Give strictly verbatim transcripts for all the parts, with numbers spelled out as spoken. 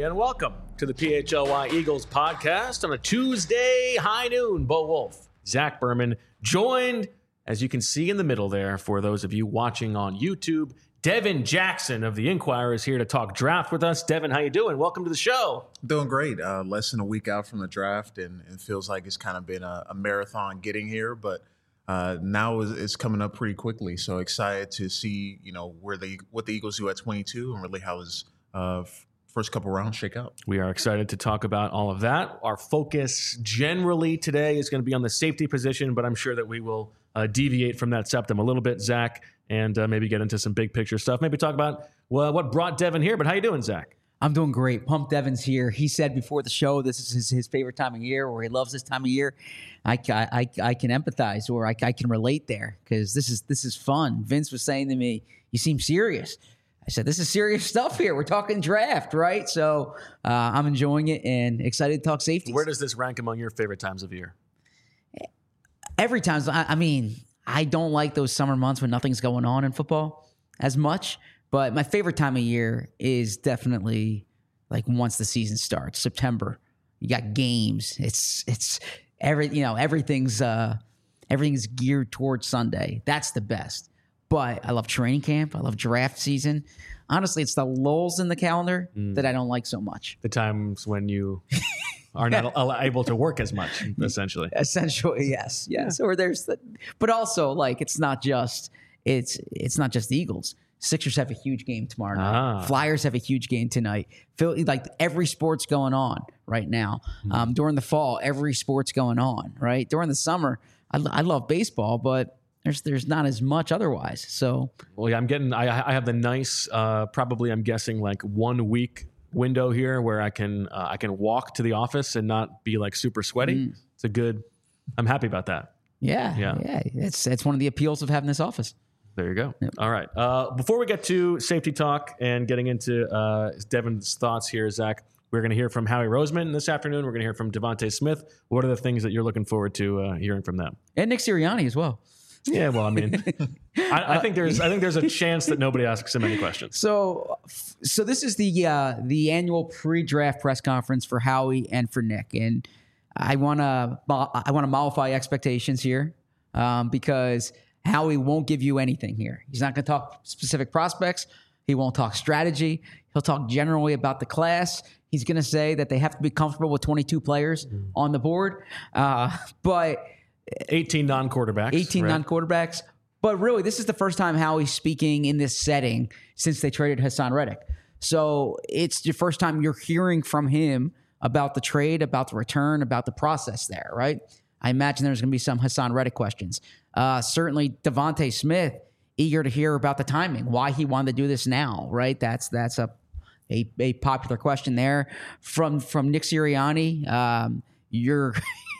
everybody, and welcome to the P H L Y Eagles podcast on a Tuesday high noon. Bo Wolf, Zach Berman, joined, as you can see in the middle there, for those of you watching on YouTube, Devin Jackson of the Inquirer is here to talk draft with us. Devin, how you doing? Welcome to the show. Doing great. Uh, less than a week out from the draft, and it feels like it's kind of been a, a marathon getting here, but uh, now it's, it's coming up pretty quickly. So excited to see, you know, where they what the Eagles do at twenty-two and really how his uh, first couple rounds shake out. We are excited to talk about all of that. Our focus generally today is going to be on the safety position, but I'm sure that we will uh, deviate from that septum a little bit, Zach, and uh, maybe get into some big picture stuff. Maybe talk about well, what brought Devin here, but how you doing, Zach? I'm doing great. Pump Devin's here. He said before the show this is his, his favorite time of year, or he loves this time of year. I, I, I can empathize, or I, I can relate there, because this is this is fun. Vince was saying to me, you seem serious. I said, this is serious stuff here. We're talking draft, right? So uh, I'm enjoying it and excited to talk safety. Where does this rank among your favorite times of year? Every time. I, I mean, I don't like those summer months when nothing's going on in football as much. But my favorite time of year is definitely like once the season starts, September. You got games. It's it's every you know everything's uh, everything's geared towards Sunday. That's the best. But I love training camp. I love draft season. Honestly, it's the lulls in the calendar mm. that I don't like so much. The times when you are not able to work as much, essentially. Essentially, yes, yes. Yeah. Or there's the, but also like it's not just it's it's not just the Eagles. Sixers have a huge game tomorrow night. Ah. Flyers have a huge game tonight. Feel like every sport's going on right now. Mm. Um, during the fall, every sport's going on. Right during the summer, I, I love baseball, but there's there's not as much otherwise. So, well, yeah, I'm getting. I I have the nice, uh, probably I'm guessing like one week window here where I can uh, I can walk to the office and not be like super sweaty. Mm. It's a good. I'm happy about that. Yeah, yeah, yeah. It's it's one of the appeals of having this office. There you go. Yep. All right. Uh, before we get to safety talk and getting into uh, Devin's thoughts here, Zach, we're going to hear from Howie Roseman this afternoon. We're going to hear from Devontae Smith. What are the things that you're looking forward to uh, hearing from them? And Nick Sirianni as well. Yeah, well, I mean, I, I think there's I think there's a chance that nobody asks him any questions. So, so this is the uh, the annual pre-draft press conference for Howie and for Nick, and I want to I want to mollify expectations here um, because Howie won't give you anything here. He's not going to talk specific prospects. He won't talk strategy. He'll talk generally about the class. He's going to say that they have to be comfortable with twenty-two players mm-hmm. on the board. Uh, but eighteen non-quarterbacks. eighteen right? non-quarterbacks. But really, this is the first time Howie's speaking in this setting since they traded Hassan Reddick. So it's the first time you're hearing from him about the trade, about the return, about the process there, right? I imagine there's going to be some Hassan Reddick questions. Uh, certainly, Devontae Smith, eager to hear about the timing, why he wanted to do this now, right? That's that's a a, a popular question there. From from Nick Sirianni, um, you're,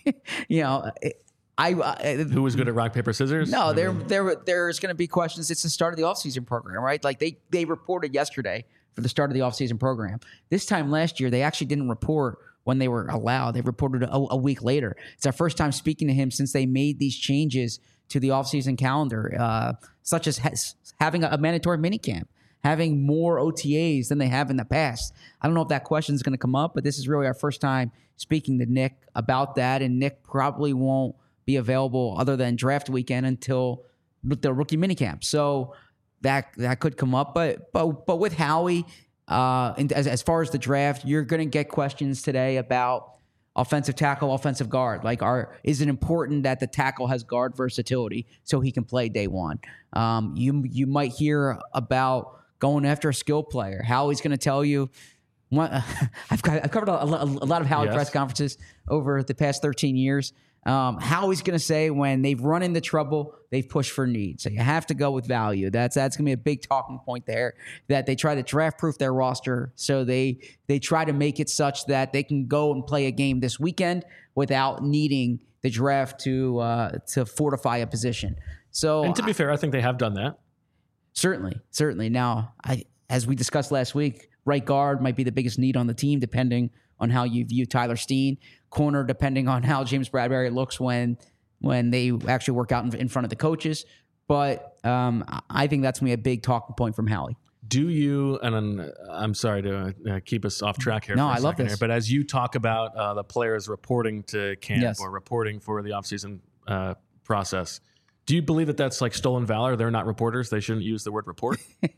you know, I uh, who was good at rock paper scissors? No, there there there's going to be questions. It's the start of the offseason program, right? Like they they reported yesterday for the start of the offseason program. This time last year, they actually didn't report when they were allowed. They reported a, a week later. It's our first time speaking to him since they made these changes to the offseason calendar, uh, such as has, having a, a mandatory minicamp, having more O T As than they have in the past. I don't know if that question is going to come up, but this is really our first time speaking to Nick about that, and Nick probably won't be available other than draft weekend until the rookie minicamp. So that that could come up, but but but with Howie, uh, and as as far as the draft, you're going to get questions today about offensive tackle, offensive guard. Like, are is it important that the tackle has guard versatility so he can play day one? Um, you you might hear about going after a skill player. Howie's going to tell you. One, I've, I've covered a, a, a lot of Howie yes. press conferences over the past thirteen years. Um, Howie's going to say when they've run into trouble, they've pushed for need. So you have to go with value. That's that's going to be a big talking point there, that they try to draft-proof their roster. So they they try to make it such that they can go and play a game this weekend without needing the draft to uh, to fortify a position. So, and to be I, fair, I think they have done that. Certainly, certainly. Now, I, as we discussed last week, right guard might be the biggest need on the team, depending on how you view Tyler Steen. Corner, depending on how James Bradbury looks when when they actually work out in, in front of the coaches. But um, I think that's going to be a big talking point from Howie. Do you, and I'm, I'm sorry to uh, keep us off track here. No, for a I love second this. Here, but as you talk about uh, the players reporting to camp Yes. or reporting for the offseason uh, process, do you believe that that's like stolen valor? They're not reporters. They shouldn't use the word report.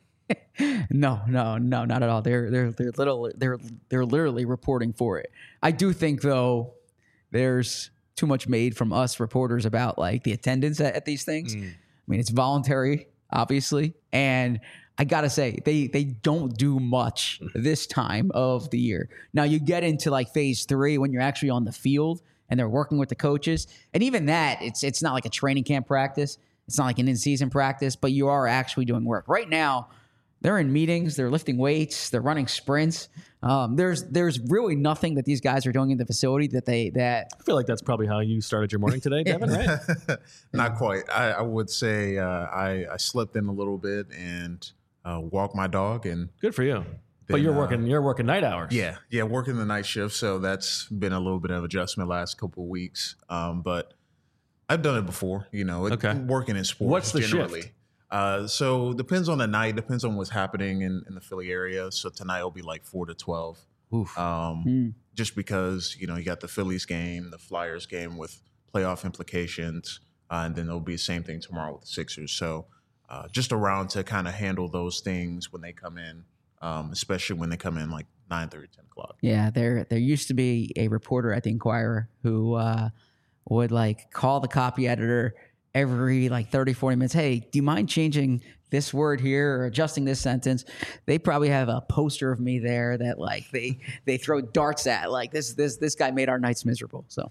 No, no, no, not at all. They're they're they're little they're they're literally reporting for it. I do think though there's too much made from us reporters about like the attendance at, at these things. Mm. I mean, it's voluntary, obviously, and I gotta say they they don't do much this time of the year. Now you get into like phase three when you're actually on the field and they're working with the coaches, and even that it's it's not like a training camp practice. It's not like an in-season practice, but you are actually doing work right now. They're in meetings, they're lifting weights, they're running sprints. Um, there's there's really nothing that these guys are doing in the facility that they that I feel like that's probably how you started your morning today, Devin, right? Not quite. I, I would say uh, I, I slept in a little bit and uh, walked my dog, and Good for you. But Then, you're uh, working you're working night hours. yeah, yeah, working the night shift. So that's been a little bit of adjustment last couple of weeks. Um, but I've done it before. You know, it, Okay. working in sports. What's the generally. shift? Uh, so depends on the night. Depends on what's happening in, in the Philly area. So tonight will be like four to twelve. Oof. Um, Mm. Just because you know you got the Phillies game, the Flyers game with playoff implications, uh, and then there'll be the same thing tomorrow with the Sixers. So uh, just around to kind of handle those things when they come in, um, especially when they come in like nine thirty, ten o'clock. Yeah, there there used to be a reporter at the Inquirer who uh, would like call the copy editor every like thirty, forty minutes. Hey, do you mind changing this word here or adjusting this sentence? They probably have a poster of me there that like they they throw darts at. Like this this this guy made our nights miserable. So,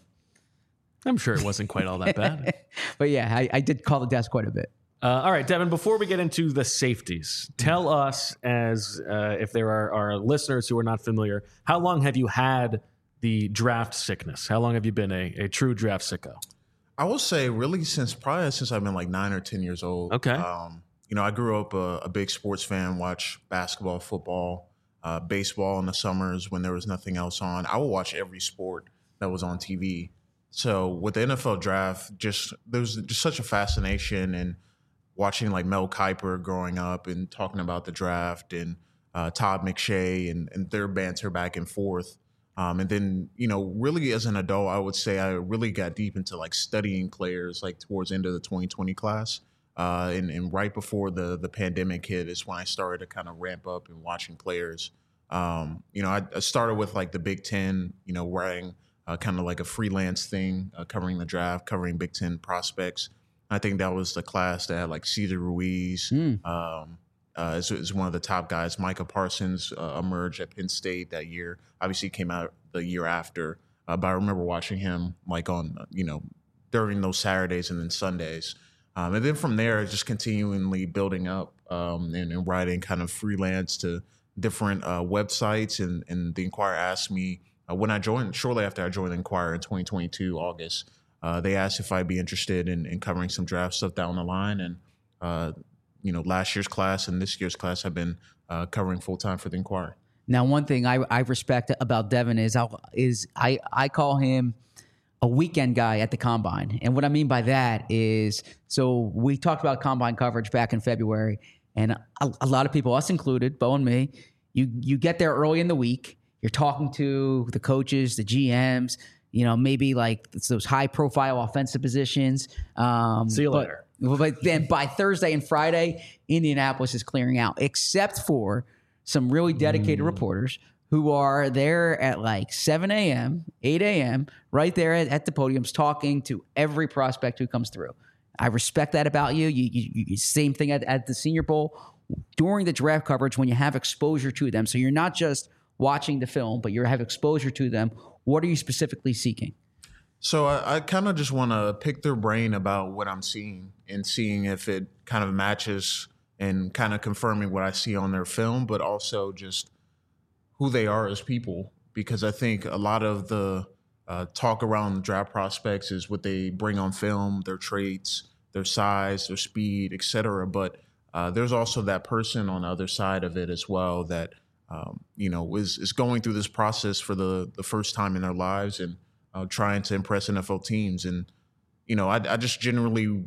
I'm sure it wasn't quite all that bad. but yeah, I, I did call the desk quite a bit. Uh, all right, Devin, before we get into the safeties, tell us, as uh, if there are, are listeners who are not familiar, how long have you had the draft sickness? How long have you been a, a true draft sicko? I will say really since probably since I've been like nine or ten years old. Okay. Um, you know, I grew up a, a big sports fan, watch basketball, football, uh, baseball in the summers when there was nothing else on. I would watch every sport that was on T V. So with the N F L draft, just there was just such a fascination and watching like Mel Kiper growing up and talking about the draft and uh, Todd McShay and, and their banter back and forth. Um, and then, you know, really as an adult, I would say I really got deep into like studying players like towards the end of the twenty twenty class. Uh, and, and right before the the pandemic hit is when I started to kind of ramp up and watching players. Um, you know, I, I started with like the Big Ten, you know, writing uh, kind of like a freelance thing, uh, covering the draft, covering Big Ten prospects. I think that was the class that had like Cesar Ruiz, Mm. um, uh, is, is one of the top guys. Micah Parsons uh, emerged at Penn State that year. Obviously, he came out the year after, uh, but I remember watching him like on uh, you know during those Saturdays and then Sundays, um, and then from there, just continually building up um, and, and writing kind of freelance to different uh, websites. And, and the Inquirer asked me uh, when I joined, shortly after I joined the Inquirer in twenty twenty-two August. Uh, they asked if I'd be interested in, in covering some draft stuff down the line, and uh, you know, last year's class and this year's class have been uh, covering full time for the Inquirer. Now, one thing I, I respect about Devin is I, is I I call him a weekend guy at the combine, and what I mean by that is, so we talked about combine coverage back in February, and a, a lot of people, us included, Bo and me, you you get there early in the week, you're talking to the coaches, the G Ms. You know, maybe like it's those high-profile offensive positions. Um, See you but, later. But then by Thursday and Friday, Indianapolis is clearing out, except for some really dedicated Mm. reporters who are there at like seven a.m., eight a.m., right there at, at the podiums talking to every prospect who comes through. I respect that about you. You, you, you same thing at, at the Senior Bowl. During the draft coverage, when you have exposure to them, so you're not just watching the film, but you have exposure to them. What are you specifically seeking? So I, I kind of just want to pick their brain about what I'm seeing and seeing if it kind of matches and kind of confirming what I see on their film, but also just who they are as people. Because I think a lot of the uh, talk around the draft prospects is what they bring on film, their traits, their size, their speed, et cetera. But uh, there's also that person on the other side of it as well that Um, you know, is, is going through this process for the, the first time in their lives and uh, trying to impress N F L teams. And, you know, I, I just generally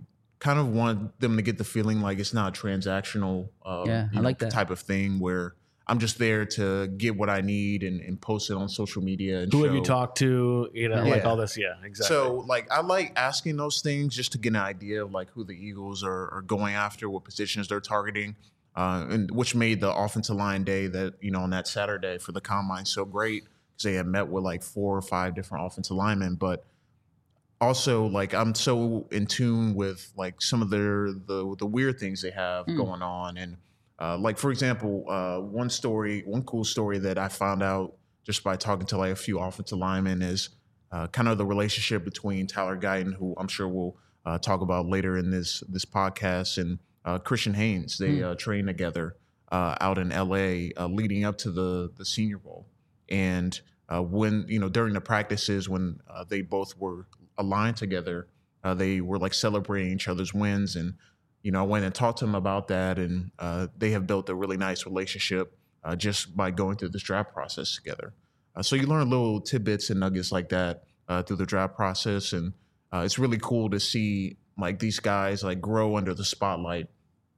kind of want them to get the feeling like it's not a transactional uh, Yeah, you I know, like that. type of thing where I'm just there to get what I need and, and post it on social media. And Who show. have you talked to? You know, like Yeah. all this. Yeah, exactly. So, like, I like asking those things just to get an idea of like who the Eagles are, are going after, what positions they're targeting, uh, and which made the offensive line day that you know on that Saturday for the combine so great because they had met with like four or five different offensive linemen. But also, like, I'm so in tune with like some of their the the weird things they have Mm. going on, and uh, like for example, uh, one story, one cool story that I found out just by talking to like a few offensive linemen is. Uh, kind of the relationship between Tyler Guyton, who I'm sure we'll uh, talk about later in this this podcast, and uh, Christian Haynes. They Hmm. uh, trained together uh, out in L A uh, leading up to the the Senior Bowl. And uh, when you know during the practices when uh, they both were aligned together, uh, they were like celebrating each other's wins. And you know I went and talked to them about that, and uh, they have built a really nice relationship uh, just by going through this draft process together. Uh, so you learn little tidbits and nuggets like that uh, through the draft process, and uh, it's really cool to see like these guys like grow under the spotlight.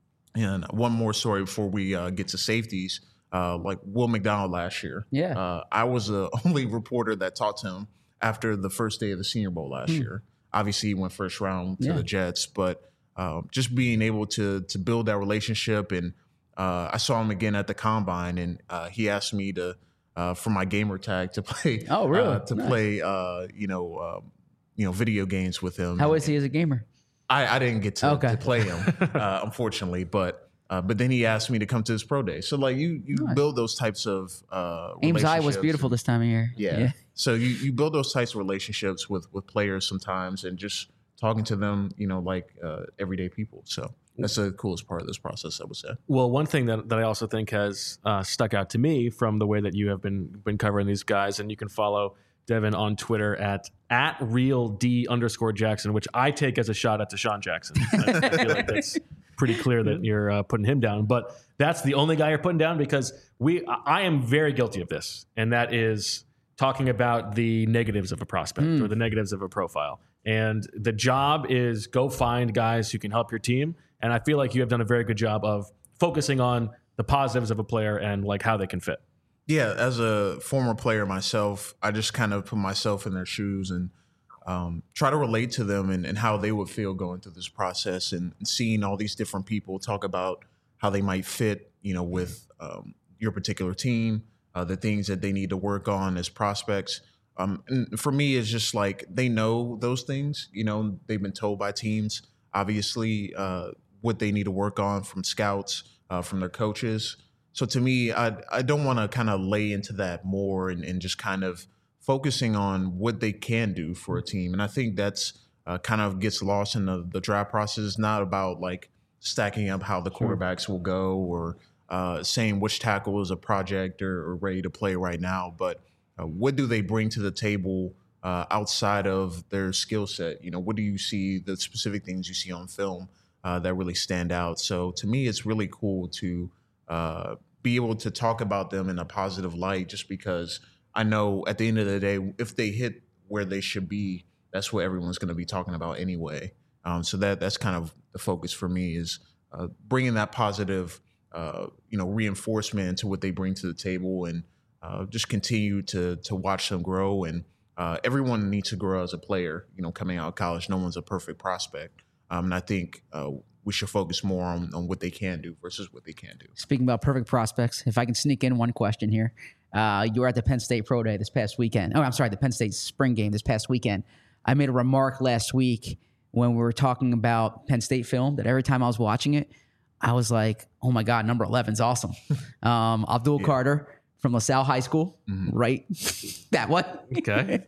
And one more story before we uh, get to safeties, uh, like Will McDonald last year. Yeah. Uh, I was the only reporter that talked to him after the first day of the Senior Bowl last Hmm. year. Obviously, he went first round to Yeah. the Jets, but um, just being able to to build that relationship, and uh, I saw him again at the combine, and uh, he asked me to. Uh, for my gamer tag to play, Oh, really? uh, to Nice. play, uh, you know, um, you know, video games with him. How is he as a gamer? I, I didn't get to, Okay. to play him, uh, unfortunately, but uh, but then he asked me to come to his pro day. So like you you Nice. build those types of uh, Ames Eye was relationships beautiful and- this time of year. yeah. So you, you build those types of relationships with with players sometimes, and just talking to them, you know, like uh, everyday people. So that's the coolest part of this process, I would say. Well, one thing that, that I also think has uh, stuck out to me from the way that you have been been covering these guys, and you can follow Devin on Twitter at at real D underscore Jackson, which I take as a shot at Deshaun Jackson. I, I feel like that's pretty clear that you're uh, putting him down, but that's the only guy you're putting down because we I am very guilty of this, and that is talking about the negatives of a prospect Mm. or the negatives of a profile. And the job is go find guys who can help your team. And I feel like you have done a very good job of focusing on the positives of a player and like how they can fit. Yeah, as a former player myself, I just kind of put myself in their shoes and um, try to relate to them and, and how they would feel going through this process, and, and seeing all these different people talk about how they might fit, you know, with um, your particular team, uh, the things that they need to work on as prospects. Um, and for me, it's just like they know those things. You know, they've been told by teams, obviously, uh, what they need to work on from scouts, uh, from their coaches. So to me, I I don't want to kind of lay into that more and, and just kind of focusing on what they can do for a team. And I think that's uh, kind of gets lost in the, the draft process. It's not about like stacking up how the quarterbacks will go or uh, saying which tackle is a project or, or ready to play right now, but uh, what do they bring to the table uh, outside of their skill set? You know, what do you see, the specific things you see on film uh, that really stand out? So to me, it's really cool to uh, be able to talk about them in a positive light, just because I know at the end of the day, if they hit where they should be, that's what everyone's going to be talking about anyway. Um, so that that's kind of the focus for me, is uh, bringing that positive, uh, you know, reinforcement to what they bring to the table, and uh, just continue to to watch them grow. And uh, everyone needs to grow as a player. You know, coming out of college, no one's a perfect prospect, um, and I think uh, we should focus more on, on what they can do versus what they can't do. Speaking about perfect prospects, if I can sneak in one question here. Uh, you were at the Penn State Pro Day this past weekend. Oh, I'm sorry, the Penn State Spring Game this past weekend. I made a remark last week when we were talking about Penn State film that every time I was watching it, I was like, oh my God, number eleven's awesome. um, Abdul Yeah. Carter from LaSalle High School, Mhm. right? That one. Okay.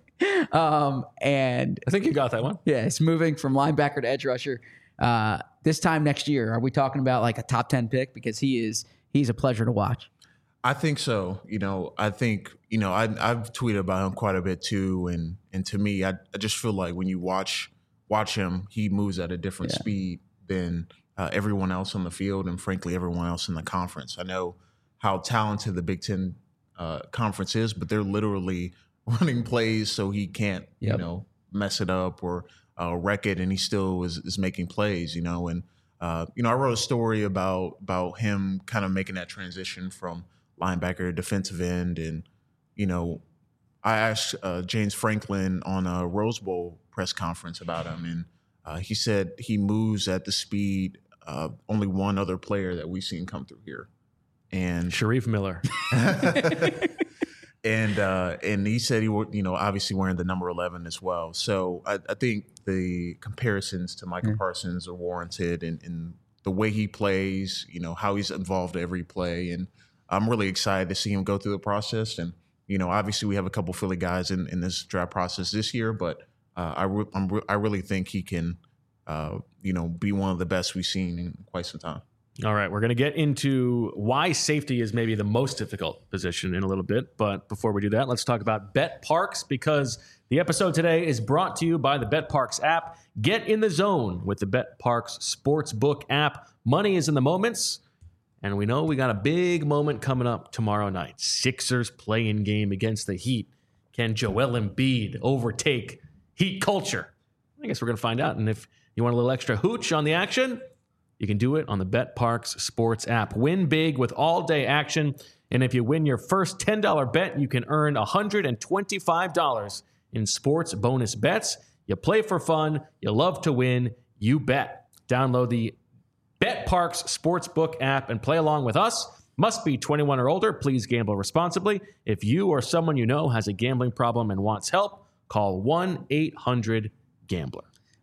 um, and I think you got that one. yeah, it's moving from linebacker to edge rusher. Uh, this time next year, are we talking about like a top ten pick? Because he is, he's a pleasure to watch. I think so. You know, I think, you know, I, I've tweeted about him quite a bit too. And and to me, I, I just feel like when you watch watch him, he moves at a different Yeah. speed than uh, everyone else on the field, and frankly, everyone else in the conference. I know how talented the Big Ten uh, conference is, but they're literally running plays so he can't, Yep. you know, mess it up or uh, record, and he still is, is making plays, you know. And, uh, you know, I wrote a story about about him kind of making that transition from linebacker to defensive end. And, you know, I asked uh, James Franklin on a Rose Bowl press conference about him, and uh, he said he moves at the speed of only one other player that we've seen come through here. And Sharif Miller. And uh, and he said he would, you know, obviously wearing the number eleven as well. So I, I think the comparisons to Micah mm. Parsons are warranted, and, and the way he plays, you know, how he's involved every play. And I'm really excited to see him go through the process. And, you know, obviously we have a couple Philly guys in, in this draft process this year, but uh, I, re- I'm re- I really think he can, uh, you know, be one of the best we've seen in quite some time. All right, we're going to get into why safety is maybe the most difficult position in a little bit. But before we do that, let's talk about BetParx, because the episode today is brought to you by the BetParx app. Get in the zone with the BetParx Sportsbook app. Money is in the moments, and we know we got a big moment coming up tomorrow night. Sixers play-in game against the Heat. Can Joel Embiid overtake Heat culture? I guess we're going to find out. And if you want a little extra hooch on the action, you can do it on the BetParx Sports app. Win big with all-day action. And if you win your first ten dollars bet, you can earn one hundred twenty-five dollars in sports bonus bets. You play for fun. You love to win. You bet. Download the BetParx Sportsbook app and play along with us. Must be twenty-one or older. Please gamble responsibly. If you or someone you know has a gambling problem and wants help, call one eight hundred gambler.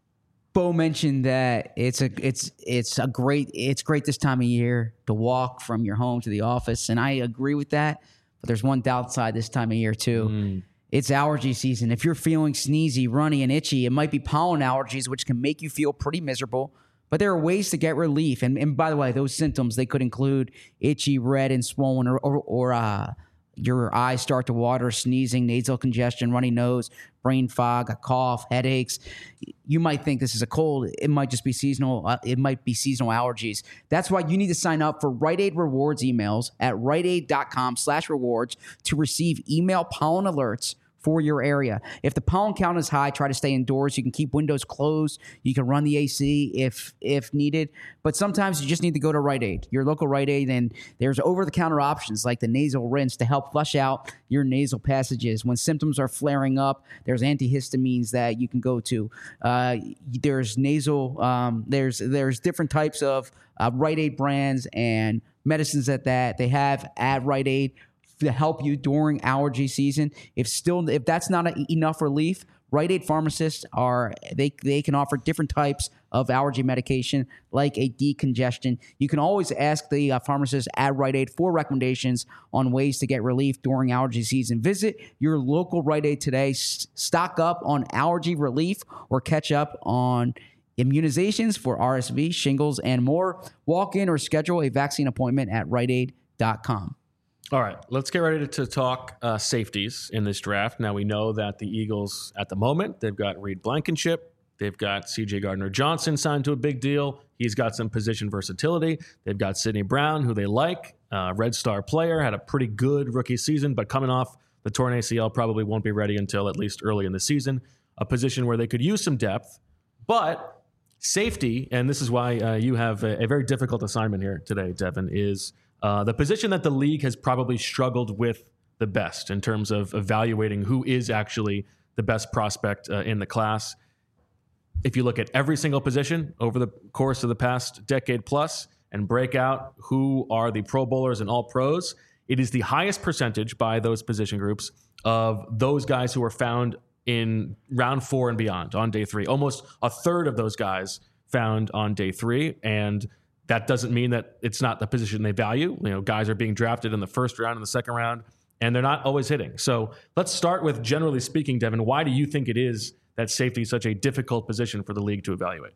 Bo mentioned that it's a it's it's a great it's great this time of year to walk from your home to the office, and I agree with that. But there's one downside this time of year too. Mm. It's allergy season. If you're feeling sneezy, runny, and itchy, it might be pollen allergies, which can make you feel pretty miserable. But there are ways to get relief. And and by the way, those symptoms, they could include itchy, red, and swollen, or or, or uh, your eyes start to water, sneezing, nasal congestion, runny nose, brain fog, a cough, headaches. You might think this is a cold. It might just be seasonal. Uh, it might be seasonal allergies. That's why you need to sign up for Rite Aid Rewards emails at riteaid.com slash rewards to receive email pollen alerts for your area. If the pollen count is high, try to stay indoors. You can keep windows closed. You can run the A C if if needed. But sometimes you just need to go to Rite Aid, your local Rite Aid, and there's over-the-counter options like the nasal rinse to help flush out your nasal passages. When symptoms are flaring up, there's antihistamines that you can go to. Uh, there's nasal, um, there's there's different types of uh, Rite Aid brands and medicines at that they have at Rite Aid to help you during allergy season. If still, if that's not a, enough relief, Rite Aid pharmacists are, they they can offer different types of allergy medication like a decongestion. You can always ask the uh, pharmacist at Rite Aid for recommendations on ways to get relief during allergy season. Visit your local Rite Aid today. S- stock up on allergy relief or catch up on immunizations for R S V, shingles, and more. Walk in or schedule a vaccine appointment at rite aid dot com. All right, let's get ready to talk uh, safeties in this draft. Now, we know that the Eagles, at the moment, they've got Reed Blankenship. They've got C J Gardner-Johnson signed to a big deal. He's got some position versatility. They've got Sidney Brown, who they like. Uh, Red Star player, had a pretty good rookie season, but coming off the torn A C L, probably won't be ready until at least early in the season. A position where they could use some depth. But safety, and this is why uh, you have a, a very difficult assignment here today, Devin, is Uh, the position that the league has probably struggled with the best in terms of evaluating who is actually the best prospect uh, in the class. If you look at every single position over the course of the past decade plus and break out who are the Pro Bowlers and All Pros, it is the highest percentage by those position groups of those guys who are found in round four and beyond on day three. Almost a third of those guys found on day three, and that doesn't mean that it's not the position they value. You know, guys are being drafted in the first round and the second round, and they're not always hitting. So let's start with, generally speaking, Devin, why do you think it is that safety is such a difficult position for the league to evaluate?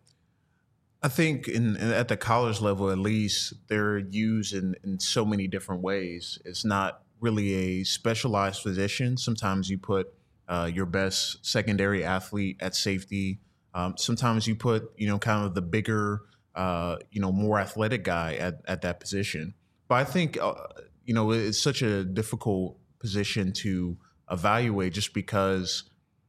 I think in, at the college level, at least, they're used in, in so many different ways. It's not really a specialized position. Sometimes you put uh, your best secondary athlete at safety. Um, sometimes you put, you know, kind of the bigger Uh, you know, more athletic guy at, at that position. But I think, uh, you know, it's such a difficult position to evaluate just because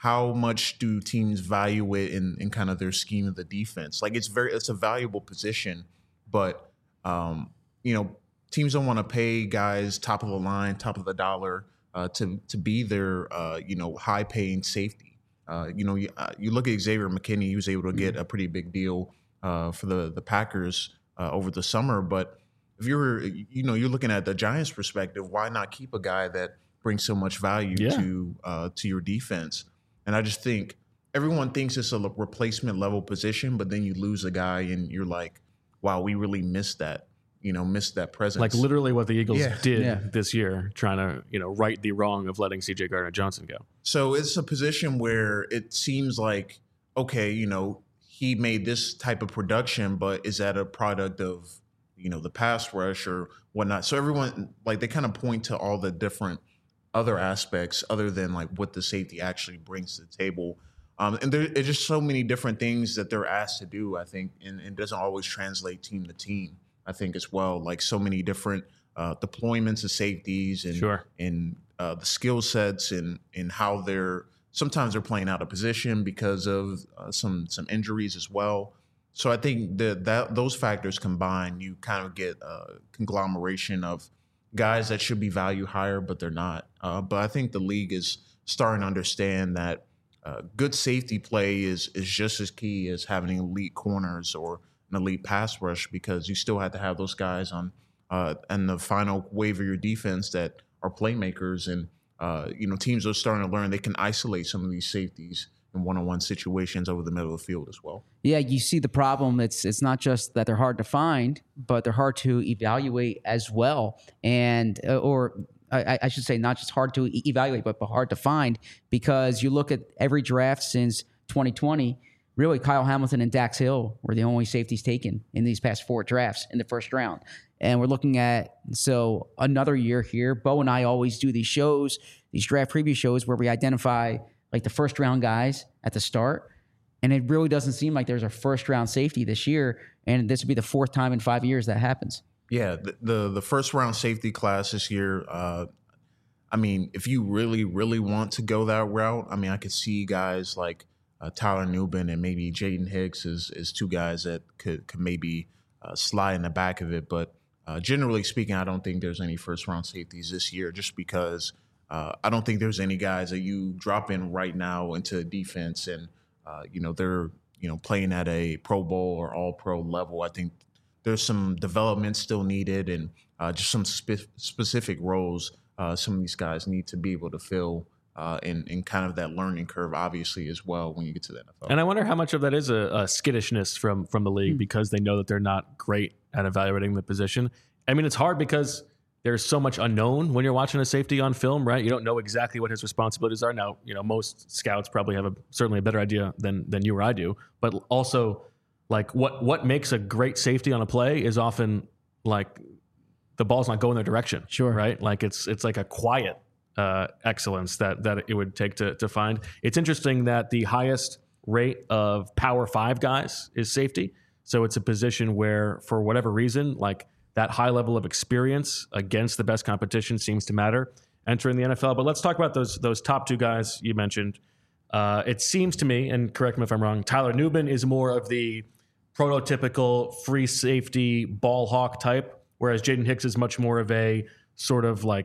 how much do teams value it in, in kind of their scheme of the defense? Like it's very, it's a valuable position, but um, you know, teams don't want to pay guys top of the line, top of the dollar uh, to to be their uh, you know high paying safety. Uh, you know, you, uh, you look at Xavier McKinney; he was able to get a pretty big deal uh, for the the Packers uh, over the summer. But if you're you know you're looking at the Giants' perspective, why not keep a guy that brings so much value Yeah. to uh, to your defense? And I just think everyone thinks it's a replacement level position, but then you lose a guy and you're like, wow, we really missed that, you know, missed that presence. Like literally what the Eagles Yeah. did Yeah. this year, trying to, you know, right the wrong of letting C J Gardner-Johnson go. So it's a position where it seems like, okay, you know, he made this type of production, but is that a product of, you know, the pass rush or whatnot? So everyone, like, they kind of point to all the different other aspects other than like what the safety actually brings to the table. Um, and there are just so many different things that they're asked to do, I think, and it doesn't always translate team to team, I think, as well. Like so many different uh, deployments of safeties and Sure. and uh, the skill sets and and how they're sometimes they're playing out of position because of uh, some some injuries as well. So I think that that those factors combined, you kind of get a conglomeration of guys that should be valued higher, but they're not. Uh, but I think the league is starting to understand that uh, good safety play is is just as key as having elite corners or an elite pass rush, because you still have to have those guys on uh, and the final wave of your defense that are playmakers. And uh, you know, teams are starting to learn they can isolate some of these safeties in one-on-one situations over the middle of the field as well. Yeah, you see the problem. It's it's not just that they're hard to find, but they're hard to evaluate as well. And uh, or I, I should say, not just hard to e- evaluate, but, but hard to find, because you look at every draft since twenty twenty. Really, Kyle Hamilton and Dax Hill were the only safeties taken in these past four drafts in the first round. And we're looking at, so another year here. Bo and I always do these shows, these draft preview shows, where we identify like the first round guys at the start. And it really doesn't seem like there's a first round safety this year. And this would be the fourth time in five years that happens. Yeah, the the, the first round safety class this year, uh, I mean, if you really, really want to go that route, I mean, I could see guys like uh, Tyler Nubin and maybe Jaden Hicks as, as two guys that could, could maybe uh, slide in the back of it. But uh, generally speaking, I don't think there's any first round safeties this year, just because uh, I don't think there's any guys that you drop in right now into defense and, uh, you know, they're, you know, playing at a Pro Bowl or all pro level. I think there's some development still needed and uh, just some spe- specific roles uh, some of these guys need to be able to fill uh, in, in kind of that learning curve, obviously, as well when you get to the N F L. And I wonder how much of that is a, a skittishness from from the league, because they know that they're not great at evaluating the position. I mean, it's hard because there's so much unknown when you're watching a safety on film, right? You don't know exactly what his responsibilities are. Now, you know, most scouts probably have a certainly a better idea than than you or I do, but also like what what makes a great safety on a play is often like the ball's not going their direction. Sure. Right? Like it's it's like a quiet uh, excellence that that it would take to to find. It's interesting that the highest rate of Power Five guys is safety. So it's a position where, for whatever reason, like that high level of experience against the best competition seems to matter entering the N F L. But let's talk about those those top two guys you mentioned. Uh, it seems to me, and correct me if I'm wrong, Tyler Nubin is more of the prototypical free safety ball hawk type, whereas Jaden Hicks is much more of a sort of like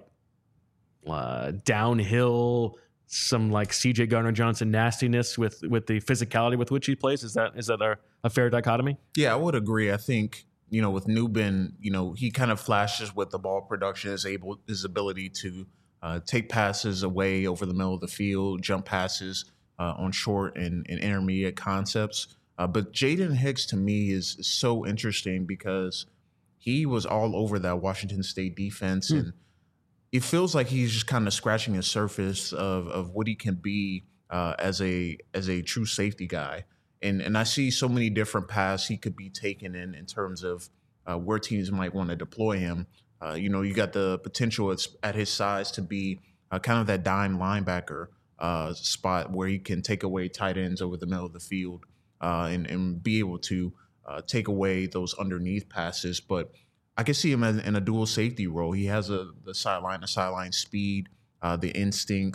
uh, downhill, some like C J Gardner-Johnson nastiness with with the physicality with which he plays. Is that is that a, a fair dichotomy? Yeah, I would agree. I think, you know, with Nubin, you know, he kind of flashes with the ball production, is able his ability to uh, take passes away over the middle of the field, jump passes uh, on short and, and intermediate concepts. Uh, but Jaden Hicks, to me, is, is so interesting because he was all over that Washington State defense, Hmm. and it feels like he's just kind of scratching the surface of of what he can be uh, as a as a true safety guy. And and I see so many different paths he could be taken in in terms of uh, where teams might want to deploy him. Uh, you know, you got the potential at, at his size to be uh, kind of that dime linebacker uh, spot where he can take away tight ends over the middle of the field uh, and, and be able to uh, take away those underneath passes. But I can see him in, in a dual safety role. He has a the sideline to sideline speed, uh, the instincts,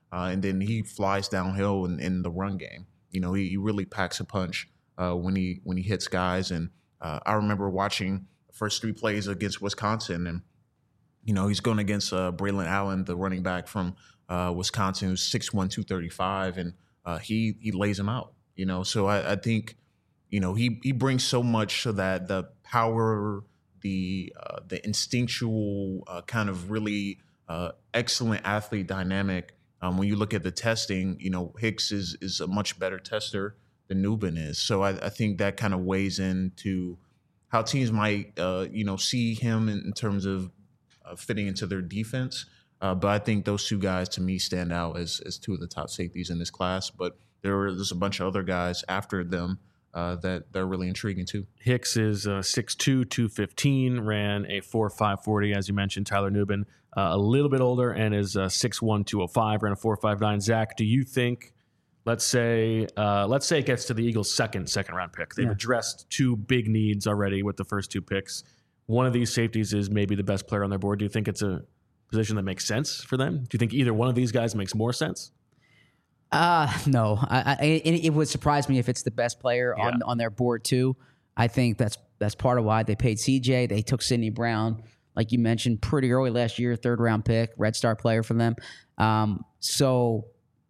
uh, and then he flies downhill in, in the run game. You know, he, he really packs a punch uh, when he when he hits guys. And uh, I remember watching the first three plays against Wisconsin, and you know, he's going against uh, Braylon Allen, the running back from uh, Wisconsin, who's six one, two thirty-five, and uh, he he lays him out. You know, so I, I think, you know, he he brings so much so that the power, the uh, the instinctual uh, kind of really uh, excellent athlete dynamic. Um, when you look at the testing, you know, Hicks is is a much better tester than Nubin is. So I, I think that kind of weighs into how teams might, uh, you know, see him in, in terms of uh, fitting into their defense. Uh, but I think those two guys, to me, stand out as as two of the top safeties in this class. But there were there's a bunch of other guys after them uh, that they're really intriguing too. Hicks is uh, six two, two fifteen, ran a four five forty, as you mentioned. Tyler Nubin, uh, a little bit older, and is uh, six one, two oh five, ran a four five nine. Zach, do you think, let's say uh, let's say it gets to the Eagles' second second round pick. They've yeah. addressed two big needs already with the first two picks. One of these safeties is maybe the best player on their board. Do you think it's a position that makes sense for them? Do you think either one of these guys makes more sense? Uh, no. I, I, it, it would surprise me if it's the best player yeah. on on their board too. I think that's that's part of why they paid C J. They took Sidney Brown, like you mentioned, pretty early last year, third round pick, Red Star player for them. Um, so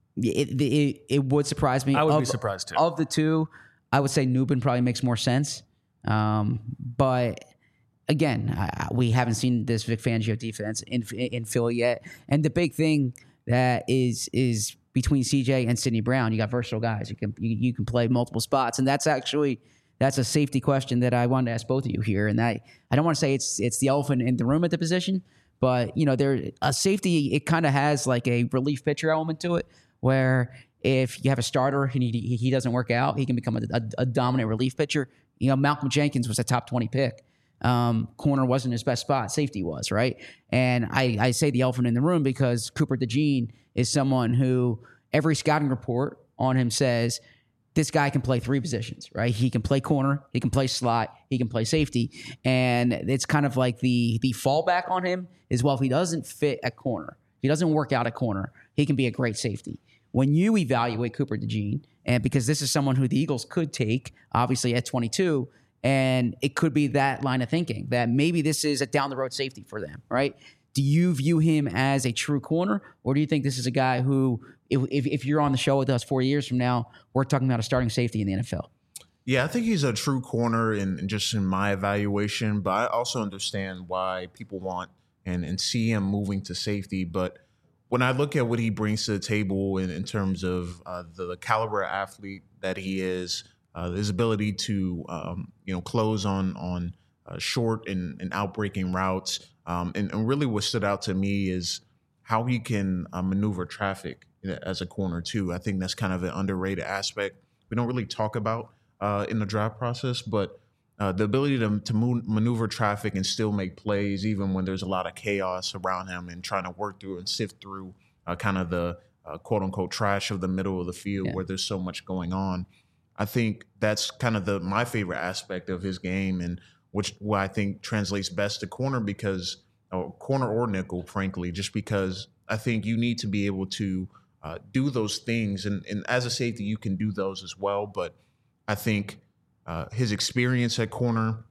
it, it it would surprise me. I would of, be surprised too. Of the two, I would say Nubin probably makes more sense. Um, but again, I, we haven't seen this Vic Fangio defense in in Philly yet, and the big thing that is is between C J and Sidney Brown, you got versatile guys. You can you, you can play multiple spots, and that's actually that's a safety question that I wanted to ask both of you here. And I I don't want to say it's it's the elephant in the room at the position, but you know, there a safety, it kind of has like a relief pitcher element to it, where if you have a starter and he he doesn't work out, he can become a, a, a dominant relief pitcher. You know, Malcolm Jenkins was a top twenty pick. Um, corner wasn't his best spot. Safety was, right? And I, I say the elephant in the room because Cooper DeJean is someone who every scouting report on him says this guy can play three positions, right? He can play corner, he can play slot, he can play safety. And it's kind of like the the fallback on him is, well, if he doesn't fit at corner, if he doesn't work out at corner, he can be a great safety. When you evaluate Cooper DeJean, and because this is someone who the Eagles could take, obviously at twenty-two, and it could be that line of thinking that maybe this is a down-the-road safety for them, right? Do you view him as a true corner, or do you think this is a guy who, if, if, if you're on the show with us four years from now, we're talking about a starting safety in the N F L? Yeah, I think he's a true corner in, in just in my evaluation, but I also understand why people want and, and see him moving to safety. But when I look at what he brings to the table in, in terms of uh, the, the caliber of athlete that he is, Uh, his ability to, um, you know, close on on uh, short and, and outbreaking routes, um, and, and really what stood out to me is how he can uh, maneuver traffic as a corner too. I think that's kind of an underrated aspect we don't really talk about uh, in the draft process, but uh, the ability to to move, maneuver traffic and still make plays even when there's a lot of chaos around him, and trying to work through and sift through uh, kind of the uh, quote unquote trash of the middle of the field yeah. where there's so much going on. I think that's kind of the my favorite aspect of his game, and which what I think translates best to corner, because or corner or nickel, frankly, just because I think you need to be able to uh, do those things, and, and as a safety, you can do those as well. But I think uh, his experience at corner,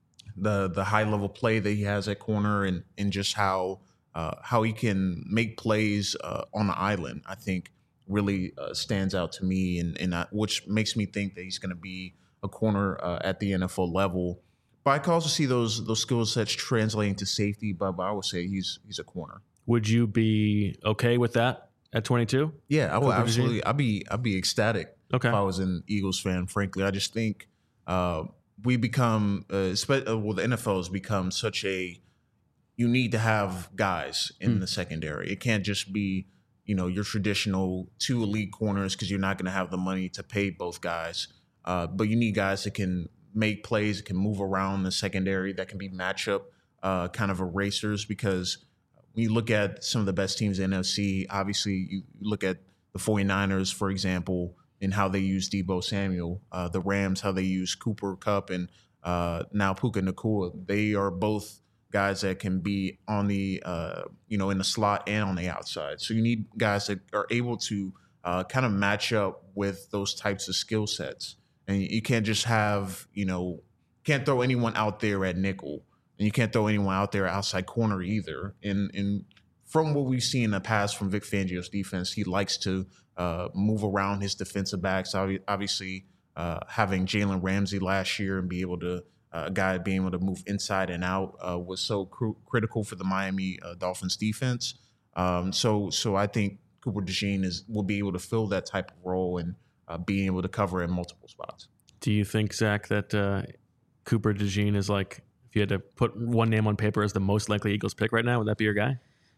the the high level play that he has at corner, and and just how uh, how he can make plays uh, on the island, I think really uh, stands out to me, and, and I, which makes me think that he's going to be a corner uh, at the N F L level. But I can also see those those skill sets translating to safety. But, but I would say he's he's a corner. Would you be okay with that at twenty-two? Yeah, I would absolutely. I'd be I'd be ecstatic okay. if I was an Eagles fan. Frankly, I just think uh, we become uh, well, the N F L has become such a you need to have guys in mm. the secondary. It can't just be, you know, your traditional two elite corners, because you're not going to have the money to pay both guys. Uh, but you need guys that can make plays, that can move around the secondary, that can be matchup uh, kind of erasers. Because when you look at some of the best teams in the N F C, obviously you look at the 49ers, for example, and how they use Deebo Samuel, uh, the Rams, how they use Cooper Kupp, and uh, now Puka Nacua. They are both guys that can be on the, uh, you know, in the slot and on the outside. So you need guys that are able to uh, kind of match up with those types of skill sets. And you can't just have, you know, can't throw anyone out there at nickel, and you can't throw anyone out there outside corner either. And, and from what we've seen in the past from Vic Fangio's defense, he likes to uh, move around his defensive backs. Obviously, uh, having Jalen Ramsey last year and be able to Uh, a guy being able to move inside and out uh, was so cr- critical for the Miami uh, Dolphins defense. Um, so, so I think Cooper DeJean is will be able to fill that type of role and uh, being able to cover in multiple spots. Do you think, Zach, that uh, Cooper DeJean is like, if you had to put one name on paper as the most likely Eagles pick right now, would that be your guy?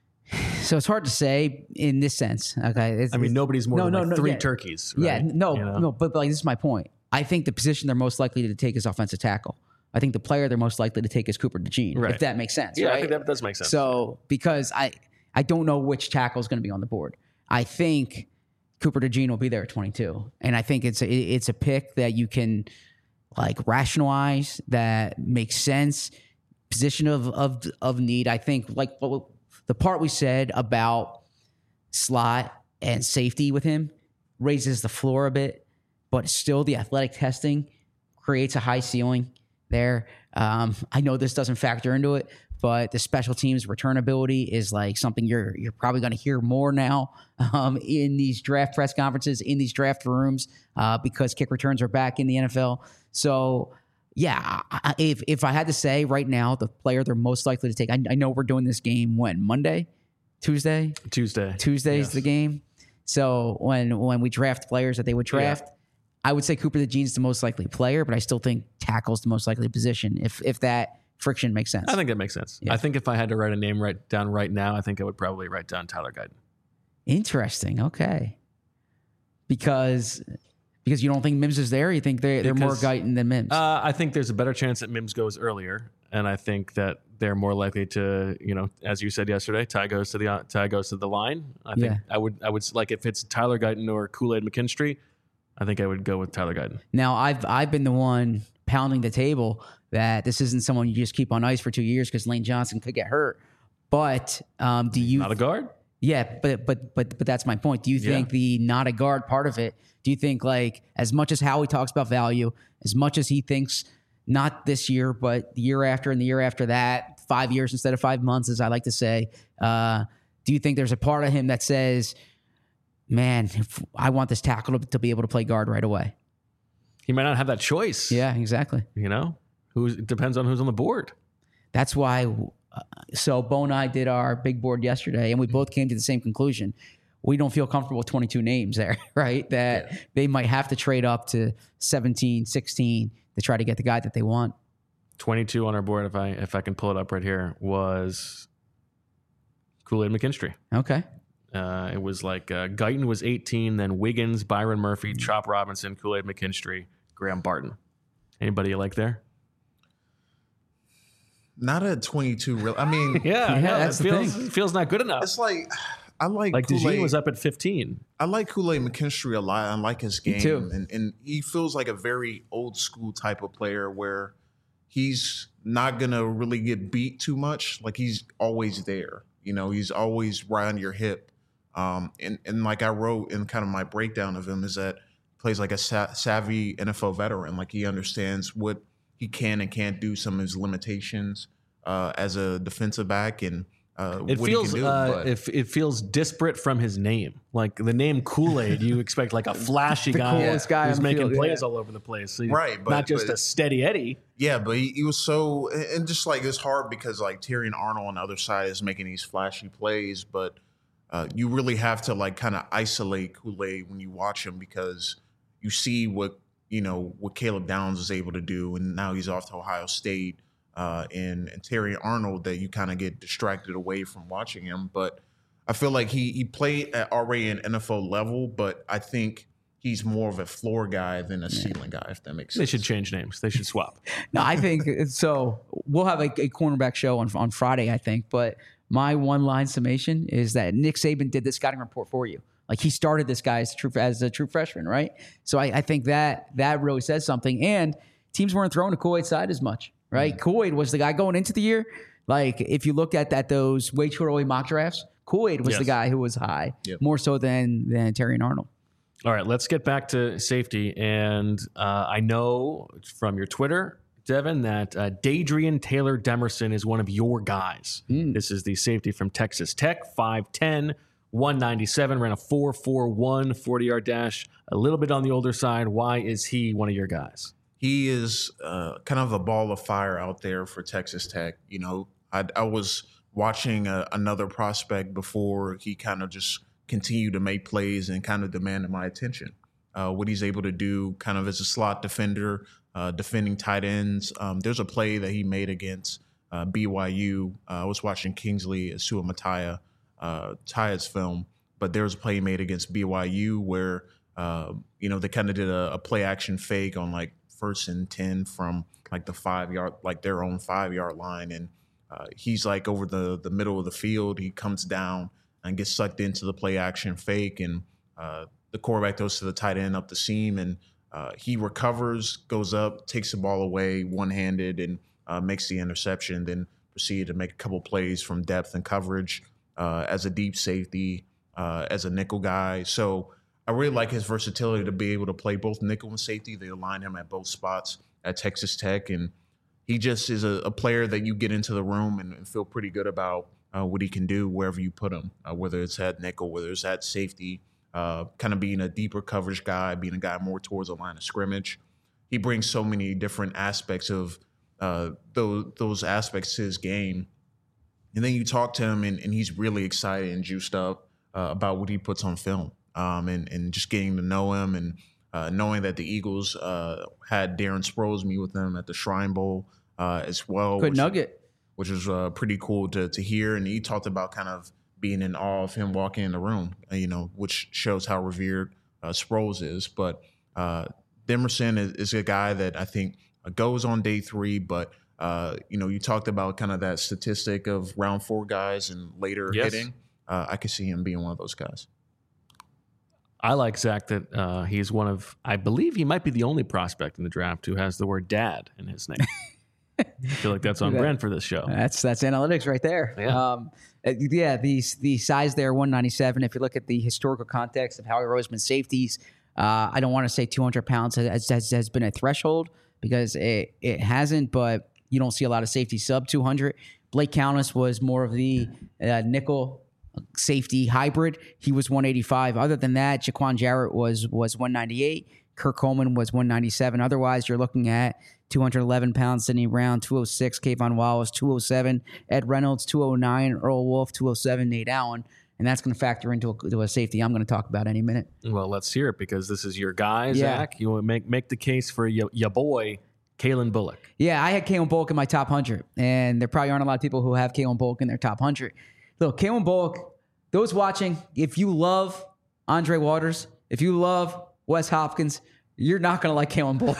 So it's hard to say in this sense. Okay, it's, I mean, nobody's more no, than no, like no, three yeah. turkeys. Right? Yeah, no, You know? no, but, but like this is my point. I think the position they're most likely to take is offensive tackle. I think the player they're most likely to take is Cooper DeJean, Right. if that makes sense. Yeah, right? I think that does make sense. So because I I don't know which tackle is going to be on the board. I think Cooper DeJean will be there at twenty-two, and I think it's a, it's a pick that you can like rationalize, that makes sense. Position of of of need. I think like the part we said about slot and safety with him raises the floor a bit, but still the athletic testing creates a high ceiling there. Um, I know this doesn't factor into it, but the special teams return ability is like something you're you're probably going to hear more now um, in these draft press conferences, in these draft rooms, uh, because kick returns are back in the N F L. So, yeah, I, if if I had to say right now, the player they're most likely to take, I, I know we're doing this game when Monday, Tuesday, Tuesday, Tuesday's yes. the game. So when when we draft players that they would draft. Yeah. I would say Cooper DeJean's the most likely player, but I still think tackle's the most likely position if if that friction makes sense. I think that makes sense. Yeah. I think if I had to write a name right down right now, I think I would probably write down Tyler Guyton. Interesting. Okay. Because because you don't think Mims is there? You think they're, they're more Because, Guyton than Mims? Uh, I think there's a better chance that Mims goes earlier, and I think that they're more likely to, you know, as you said yesterday, Ty goes to the Ty goes to the line. I think Yeah. I would I would like if it's Tyler Guyton or Kool-Aid McKinstry, I think I would go with Tyler Guyton. Now, I've I've been the one pounding the table that this isn't someone you just keep on ice for two years because Lane Johnson could get hurt. But um, do you? Not a guard? Yeah, but but but but that's my point. Do you Yeah. think the not a guard part of it? Do you think like as much as Howie talks about value, as much as he thinks not this year, but the year after and the year after that, five years instead of five months, as I like to say, uh, do you think there's a part of him that says, man, if I want this tackle to, to be able to play guard right away? He might not have that choice. Yeah, exactly. You know, who's it depends on who's on the board. That's why. Uh, so Bo and I did our big board yesterday, and we both came to the same conclusion. We don't feel comfortable with twenty-two names there, right? That yeah. they might have to trade up to seventeen, sixteen to try to get the guy that they want. twenty-two on our board, if I if I can pull it up right here, was Kool-Aid McKinstry. Okay. Uh, it was like uh, Guyton was eighteen, then Wiggins, Byron Murphy, Chop Robinson, Kool-Aid McKinstry, Graham Barton. Anybody you like there? Not at twenty-two, really. I mean, yeah, yeah, no, that's it the feels thing. feels not good enough. It's like I like like Kool-Aid. DeJean was up at fifteen. I like Kool-Aid McKinstry a lot. I like his game, too. and and he feels like a very old school type of player where he's not gonna really get beat too much. Like he's always there. You know, he's always right on your hip. Um, and and like I wrote in kind of my breakdown of him is that he plays like a sa- savvy N F L veteran. Like he understands what he can and can't do, some of his limitations uh, as a defensive back, and uh, It what feels he can do. uh, but if it feels disparate from his name. Like the name Kool-Aid, you expect like a flashy The guy, coolest guy who's on the making field, plays yeah. all over the place. So Right, but- not just but- a steady Eddie. Yeah, but he, he was so, and just like it's hard because like Tyrion Arnold on the other side is making these flashy plays, but uh, you really have to like kind of isolate Kool-Aid when you watch him because you see what, you know, what Caleb Downs is able to do, and now he's off to Ohio State, uh, and, and Tyrion Arnold that you kind of get distracted away from watching him. But I feel like he he played at already an N F L level, but I think he's more of a floor guy than a ceiling guy, if that makes sense. They should change names. They should swap. No, I think so. We'll have a, a cornerback show on on Friday, I think. But my one line summation is that Nick Saban did the scouting report for you. Like he started this guy as a true as a true freshman, right? So I, I think that that really says something. And teams weren't throwing to Kool-Aid's side as much, right? Mm-hmm. Kool-Aid was the guy going into the year Like if you look at that, those way too early mock drafts, Kool-Aid was Yes. the guy who was high, Yep. more so than than Terry and Arnold. All right, let's get back to safety. And uh, I know from your Twitter, Devin, that uh, Dadrian Taylor Demerson is one of your guys. Mm. This is the safety from Texas Tech, five ten, one ninety-seven, ran a four four one forty-yard dash, a little bit on the older side. Why is he one of your guys? He is uh, kind of a ball of fire out there for Texas Tech. You know, I, I was watching a, another prospect before he kind of just continued to make plays and kind of demanded my attention. Uh, what he's able to do kind of as a slot defender, uh, defending tight ends. Um, there's a play that he made against uh, B Y U. Uh, I was watching Kingsley Suamataia, uh, Taia's film, but there was a play he made against B Y U where, uh, you know, they kind of did a, a play action fake on like first and ten from like the five yard, like their own five yard line. And uh, he's like over the, the middle of the field. He comes down and gets sucked into the play action fake. And uh, the quarterback goes to the tight end up the seam and uh, he recovers, goes up, takes the ball away one handed and uh, makes the interception, then proceeded to make a couple plays from depth and coverage uh, as a deep safety, uh, as a nickel guy. So I really like his versatility to be able to play both nickel and safety. They align him at both spots at Texas Tech. And he just is a, a player that you get into the room and, and feel pretty good about uh, what he can do wherever you put him, uh, whether it's at nickel, whether it's at safety, uh, kind of being a deeper coverage guy, being a guy more towards the line of scrimmage. He brings so many different aspects of uh, those, those aspects to his game. And then you talk to him and, and he's really excited and juiced up uh, about what he puts on film. Um, and, and just getting to know him and uh, knowing that the Eagles uh, had Darren Sproles meet with them at the Shrine Bowl uh, as well. Good which, nugget. Which was uh, pretty cool to to hear. And he talked about kind of being in awe of him walking in the room, uh, you know, which shows how revered uh, Sproles is. But uh, Demerson is, is a guy that I think goes on day three, but uh, you know, you talked about kind of that statistic of round four guys and later Yes. hitting. Uh, I could see him being one of those guys. I like Zach that uh, he's one of, I believe he might be the only prospect in the draft who has the word dad in his name. I feel like that's on That- brand for this show. That's that's analytics right there. Yeah. Um, uh, yeah. The the size there, one ninety-seven. If you look at the historical context of Howie Roseman safeties, uh, I don't want to say two hundred pounds has, has, has been a threshold because it it hasn't. But you don't see a lot of safety sub two hundred. Blake Countess was more of the uh, nickel safety hybrid. He was one eighty-five. Other than that, Jaquan Jarrett was was one ninety-eight. Kirk Coleman was one ninety-seven. Otherwise, you're looking at two hundred eleven pounds, Sidney Brown, two oh six, Kayvon Wallace, two oh seven, Ed Reynolds, two oh nine, Earl Wolf, two oh seven, Nate Allen. And that's going to factor into a, to a safety I'm going to talk about any minute. Well, let's hear it because this is your guy, Yeah. Zach. You want to make, make the case for your, your boy, Kalen Bullock. Yeah, I had Kalen Bullock in my top one hundred, and there probably aren't a lot of people who have Kalen Bullock in their top one hundred. Look, Kalen Bullock, those watching, if you love Andre Waters, if you love Wes Hopkins, you're not going to like Kalen Bullock.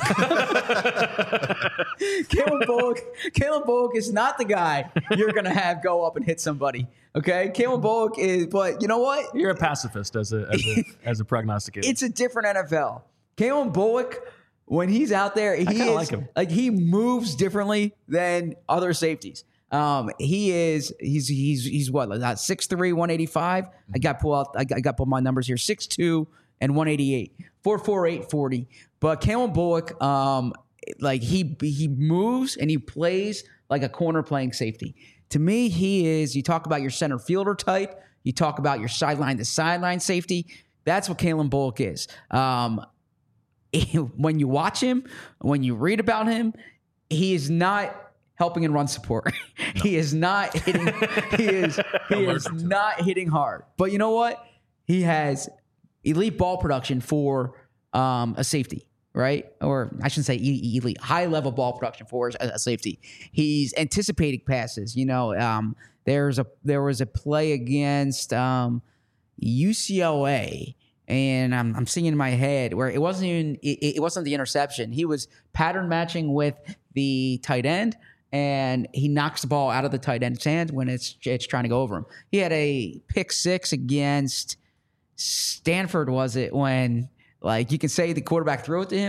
Kalen Bullock, Kalen Bullock is not the guy you're going to have go up and hit somebody. Okay? Kalen Bullock is, but you know what? You're a pacifist as a as a, as a prognosticator. It's a different N F L. Kalen Bullock, when he's out there, he kinda is like him. like he moves differently than other safeties. Um, he is he's he's he's what like six three, one eighty-five. I got pull out I got, I got pull my numbers here six two and one eighty-eight, four four eight forty. But Kalen Bullock, um, like he he moves and he plays like a corner playing safety. To me, he is. You talk about your center fielder type. You talk about your sideline to sideline safety. That's what Kalen Bullock is. Um, when you watch him, when you read about him, he is not helping in run support. No. He is not hitting. He is. He is not hitting hard. But you know what? He has elite ball production for um, a safety, right? Or I shouldn't say elite, high level ball production for a, a safety. He's anticipating passes. You know, um, there's a there was a play against um, U C L A. And I'm I'm seeing in my head where it wasn't even it, it wasn't the interception. He was pattern matching with the tight end, and he knocks the ball out of the tight end's hand when it's it's trying to go over him. He had a pick six against Stanford, was it? When like you can say the quarterback threw it to him,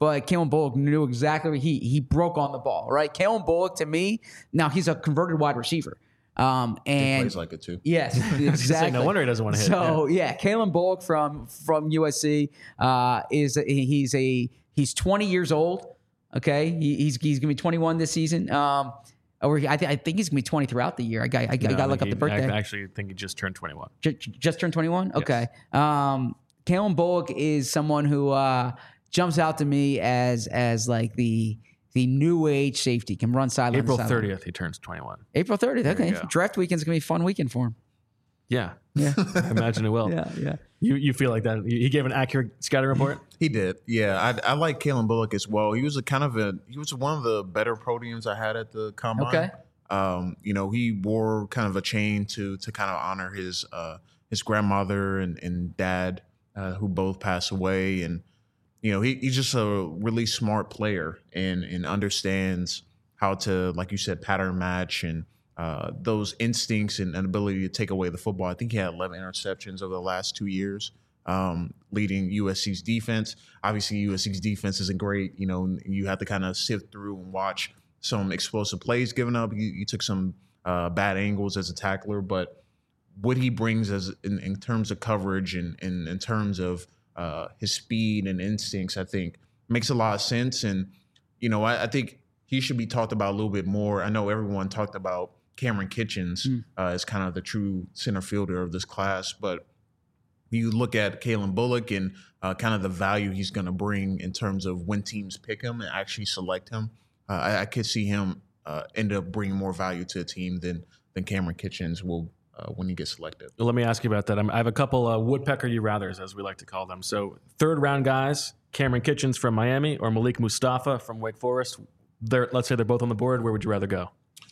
but Kalen Bullock knew exactly he he broke on the ball, right? Kalen Bullock, to me, now he's a converted wide receiver. Um, and he plays like it too. Yes, exactly. No wonder he doesn't want to hit. So yeah, yeah Kalen Bullock from from U S C uh, is he's a he's twenty years old. Okay, he, he's he's gonna be twenty-one this season. Um, or I, th- I think he's gonna be twenty throughout the year. I got I, no, I got to look up the birthday. I actually think he just turned twenty-one. J- just turned twenty-one. Okay. Yes. Um, Kalen Bullock is someone who uh, jumps out to me as as like the the new age safety, can run sideline. April thirtieth, he turns twenty-one. April thirtieth. Okay, draft weekend's gonna be a fun weekend for him. Yeah, yeah. Imagine it will. Yeah, yeah. You you feel like that? He gave an accurate scouting report. He did. Yeah, I, I like Kalen Bullock as well. He was a kind of a he was one of the better podiums I had at the combine. Okay. Um, you know, he wore kind of a chain to to kind of honor his uh, his grandmother and and dad, uh, who both passed away, and you know, he, he's just a really smart player and and understands how to, like you said, pattern match and uh, those instincts and, and ability to take away the football. I think he had eleven interceptions over the last two years, um, leading U S C's defense. Obviously, U S C's defense isn't great. You know, you have to kind of sift through and watch some explosive plays given up. You, you took some uh, bad angles as a tackler, but what he brings as in, in terms of coverage and, and in terms of uh, his speed and instincts, I think makes a lot of sense. And, you know, I, I think he should be talked about a little bit more. I know everyone talked about Cameron Kitchens mm. uh, as kind of the true center fielder of this class, but you look at Kalen Bullock and uh, kind of the value he's going to bring in terms of when teams pick him and actually select him. Uh, I, I could see him uh, end up bringing more value to a team than than Cameron Kitchens will uh, when he gets selected. Well, let me ask you about that. I'm, I have a couple uh, woodpecker you rathers, as we like to call them. So third round guys, Cameron Kitchens from Miami or Malik Mustafa from Wake Forest. They're, let's say they're both on the board. Where would you rather go?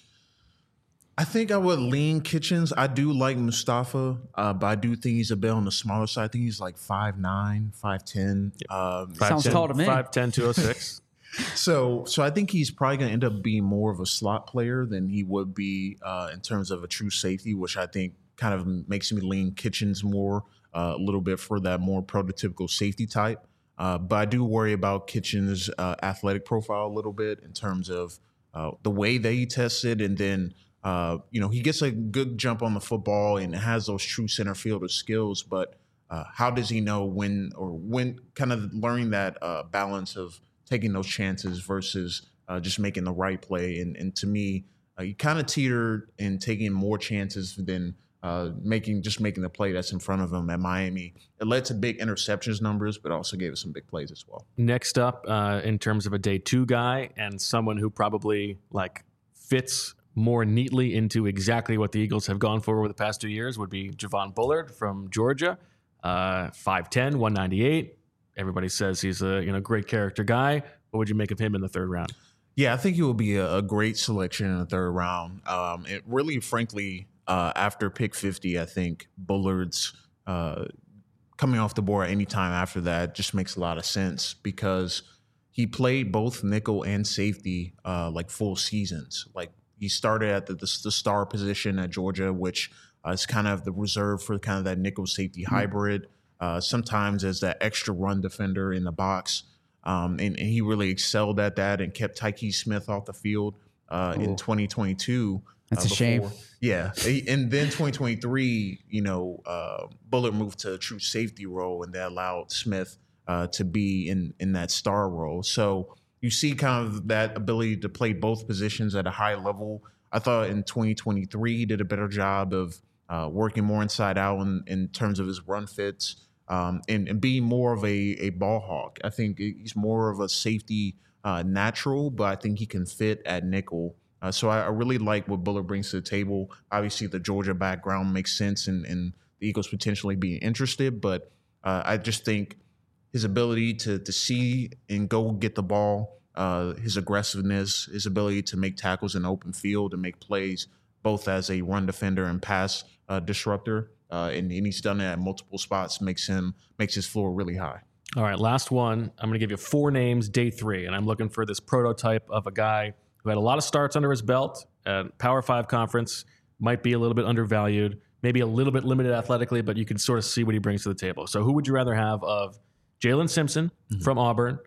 I think I would lean Kitchens. I do like Mustafa, uh, but I do think he's a bit on the smaller side. I think he's like five nine, five ten. Yep. Um, Sounds tall to me. five ten, two oh six So, so I think he's probably going to end up being more of a slot player than he would be uh, in terms of a true safety, which I think kind of makes me lean Kitchens more uh, a little bit for that more prototypical safety type. Uh, but I do worry about Kitchens' uh, athletic profile a little bit in terms of uh, the way that he tested, and then uh, you know he gets a good jump on the football and has those true center fielder skills. But uh, how does he know when or when? Kind of learning that uh, balance of taking those chances versus uh, just making the right play. And, and to me, uh, you kind of teetered in taking more chances than uh, making just making the play that's in front of him at Miami. It led to big interceptions numbers, but also gave us some big plays as well. Next up, uh, in terms of a day two guy and someone who probably like fits more neatly into exactly what the Eagles have gone for over the past two years would be Javon Bullard from Georgia, uh, five ten, one ninety-eight. Everybody says he's a you know great character guy. What would you make of him in the third round? Yeah, I think he will be a, a great selection in the third round. Um, it really, frankly, uh, after pick fifty, I think Bullard's uh, coming off the board any time after that just makes a lot of sense because he played both nickel and safety uh, like full seasons. Like he started at the, the, the star position at Georgia, which uh, is kind of the reserve for kind of that nickel safety mm-hmm. hybrid. Uh, sometimes as that extra run defender in the box. Um, and, and he really excelled at that and kept Tyke Smith off the field uh, in twenty twenty-two. That's uh, a shame. Yeah. And then twenty twenty-three, you know, uh, Bullard moved to a true safety role, and that allowed Smith uh, to be in, in that star role. So you see kind of that ability to play both positions at a high level. I thought in twenty twenty-three he did a better job of uh, working more inside out in, in terms of his run fits. Um, and, and being more of a, a ball hawk. I think he's more of a safety uh, natural, but I think he can fit at nickel. Uh, so I, I really like what Bullard brings to the table. Obviously, the Georgia background makes sense and, and the Eagles potentially being interested, but uh, I just think his ability to to see and go get the ball, uh, his aggressiveness, his ability to make tackles in the open field and make plays, both as a run defender and pass uh, disruptor, Uh, and, and he's done it at multiple spots, makes him makes his floor really high. All right, last one. I'm going to give you four names, day three, and I'm looking for this prototype of a guy who had a lot of starts under his belt at Power Five conference, might be a little bit undervalued, maybe a little bit limited athletically, but you can sort of see what he brings to the table. So who would you rather have of Jalen Simpson mm-hmm. from Auburn,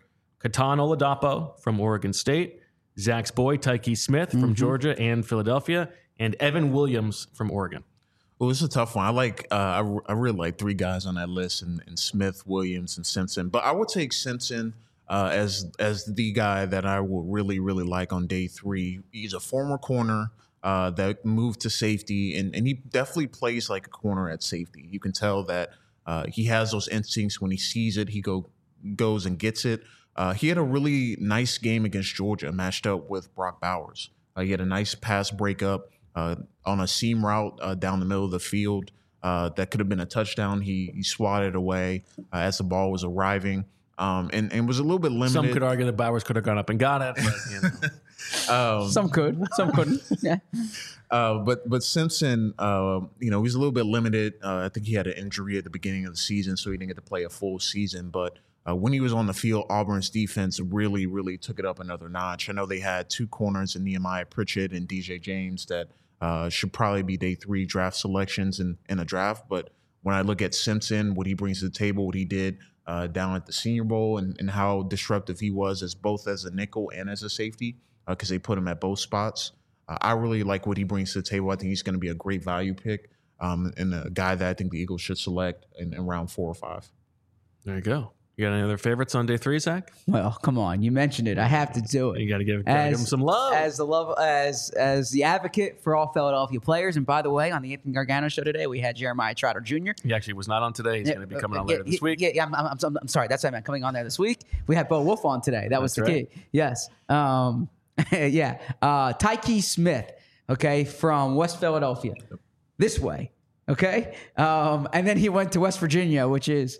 Katan Oladapo from Oregon State, Zach's boy, Tyke Smith from mm-hmm. Georgia and Philadelphia, and Evan Williams from Oregon. Well, it's a tough one. I like, uh, I, I really like three guys on that list, and, and Smith, Williams, and Simpson. But I would take Simpson uh, as as the guy that I will really, really like on day three. He's a former corner uh, that moved to safety, and, and he definitely plays like a corner at safety. You can tell that uh, he has those instincts. When he sees it, he go goes and gets it. Uh, he had a really nice game against Georgia, matched up with Brock Bowers. Uh, he had a nice pass breakup uh, on a seam route uh, down the middle of the field. Uh, that could have been a touchdown. He, he swatted away uh, as the ball was arriving, um, and, and was a little bit limited. Some could argue that Bowers could have gone up and got it. But, you know. um, some could, some couldn't. Yeah. Uh, but but Simpson, uh, you know, he's a little bit limited. Uh, I think he had an injury at the beginning of the season, so he didn't get to play a full season. But uh, when he was on the field, Auburn's defense really, really took it up another notch. I know they had two corners in Nehemiah Pritchett and D J James that uh, should probably be day three draft selections in, in a draft. But when I look at Simpson, what he brings to the table, what he did uh, down at the Senior Bowl, and, and how disruptive he was as both as a nickel and as a safety, because uh, they put him at both spots. Uh, I really like what he brings to the table. I think he's going to be a great value pick um, and a guy that I think the Eagles should select in, in round four or five. There you go. You got any other favorites on day three, Zach? Well, come on, you mentioned it. I have to do it. You got to give, give him some love. As the love, as as the advocate for all Philadelphia players. And by the way, on the Anthony Gargano show today, we had Jeremiah Trotter Junior He actually was not on today. He's yeah, going to be coming on yeah, later this yeah, week. Yeah, yeah. I'm, I'm, I'm, I'm sorry. That's what I meant. Coming on there this week. We had Bo Wolf on today. That That's was the right. key. Yes. Um, yeah. Uh, Tyke Smith. Okay, from West Philadelphia, this way. Okay, um, and then he went to West Virginia, which is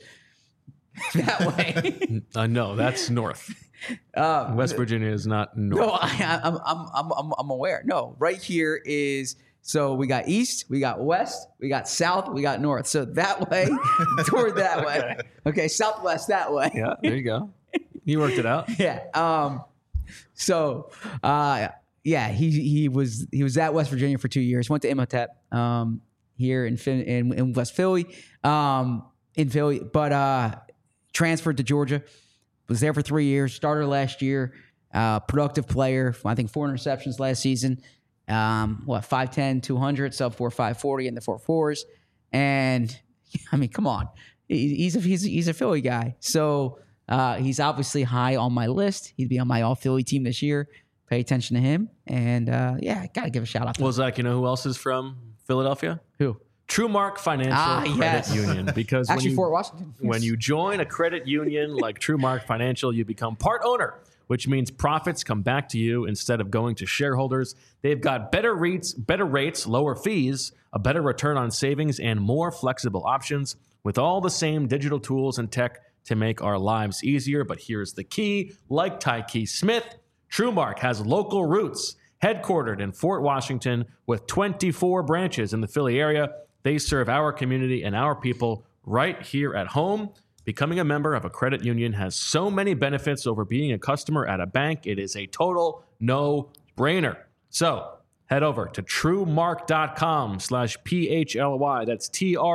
that way. uh, no, that's north. Um, West Virginia is not north. No, I, I'm, I'm, I'm, I'm, I'm aware. No, right here is. So we got east, we got west, we got south, we got north. So that way, toward that okay. way. Okay, southwest that way. Yeah, there you go. You worked it out. Yeah. Um. So, uh, yeah, he he was he was at West Virginia for two years. Went to Imhotep um, here in, in in West Philly, um, in Philly, but uh, transferred to Georgia. Was there for three years. Starter last year. Uh, productive player. I think four interceptions last season. Um, what five ten, two hundred, sub four five forty in the four fours, and I mean, come on, he, he's a he's a, he's a Philly guy. So uh, he's obviously high on my list. He'd be on my all Philly team this year. Pay attention to him. And, uh, yeah, got to give a shout-out to well, him. Zach, you know who else is from Philadelphia? Who? TrueMark Financial ah, Credit yes. Union. Because Actually, when you, Fort Washington. Yes. When you join a credit union like TrueMark Financial, you become part owner, which means profits come back to you instead of going to shareholders. They've got better rates, better rates, lower fees, a better return on savings, and more flexible options with all the same digital tools and tech to make our lives easier. But here's the key. Like Tyke Smith, TrueMark has local roots, headquartered in Fort Washington with twenty-four branches in the Philly area. They serve our community and our people right here at home. Becoming a member of a credit union has so many benefits over being a customer at a bank. It is a total no-brainer. So head over to TrueMark.com slash P-H-L-Y. That's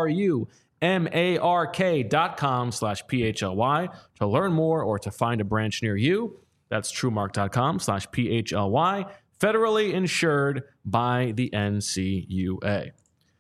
T-R-U-M-A-R-K dot com slash P-H-L-Y to learn more or to find a branch near you. That's TrueMark.com slash P-H-L-Y, federally insured by the N C U A.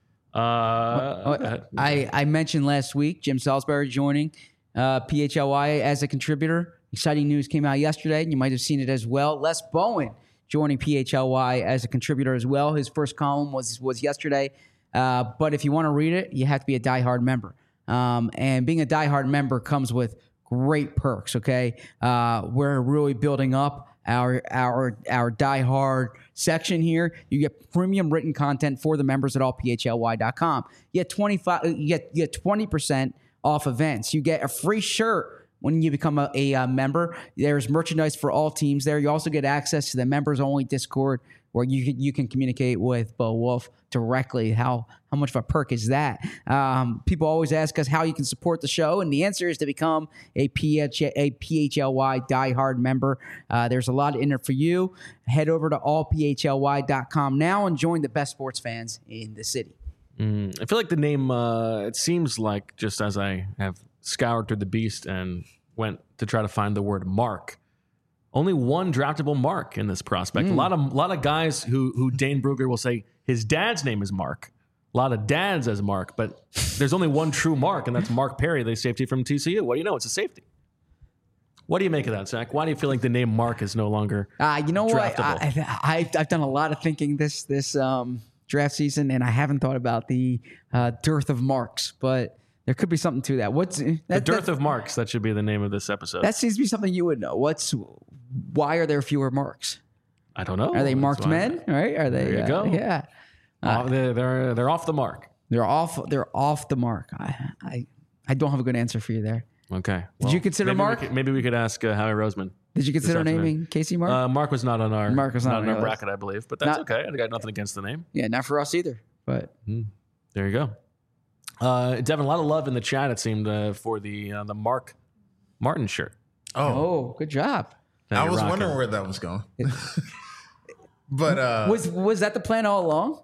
Uh, I, I mentioned last week Jim Salisbury joining uh, P H L Y as a contributor. Exciting news came out yesterday, and you might have seen it as well. Les Bowen joining P H L Y as a contributor as well. His first column was, was yesterday. Uh, but if you want to read it, you have to be a diehard member. Um, and being a diehard member comes with great perks, okay? Uh, we're really building up our our our diehard section here. You get premium written content for the members at all P H L Y dot com. You get twenty-five you get you get twenty percent off events. You get a free shirt when you become a, a, a member. There's merchandise for all teams there. You also get access to the members only Discord where you can, you can communicate with Bo Wolf directly. How how much of a perk is that? Um, people always ask us how you can support the show, and the answer is to become a, P H, a P H L Y diehard member. Uh, there's a lot in it for you. Head over to all P H L Y dot com now and join the best sports fans in the city. Mm, I feel like the name, uh, it seems like just as I have scoured through the beast and went to try to find the word Mark. Only one draftable Mark in this prospect. Mm. A lot of a lot of guys who who Dane Brugler will say his dad's name is Mark. A lot of dads as Mark, but there's only one true Mark, and that's Mark Perry, the safety from T C U. What do you know? It's a safety. What do you make of that, Zach? Why do you feel like the name Mark is no longer uh, you know draftable? what? I, I, I've done a lot of thinking this this um, draft season, and I haven't thought about the uh, dearth of marks, but there could be something to that. What's that, the dearth that, of marks? That should be the name of this episode. That seems to be something you would know. What's why are there fewer marks? I don't know. Are they marked men? Right? Are they? There you uh, go. Yeah. Uh, oh, they're, they're they're off the mark. They're off. They're off the mark. I I, I don't have a good answer for you there. Okay. Did you consider maybe Mark? We could, maybe we could ask uh, Howie Roseman. Did you consider naming Casey Mark? Uh, Mark was not on our Mark was not, not on our our bracket, list. I believe, but that's Not, okay. I got nothing against the name. Yeah, not for us either. But mm, there you go. Uh, Devin, a lot of love in the chat. It seemed uh, for the uh, the Mark Martin shirt. Oh, oh good job. Now I was rocking. wondering where that was going. But uh, was was that the plan all along?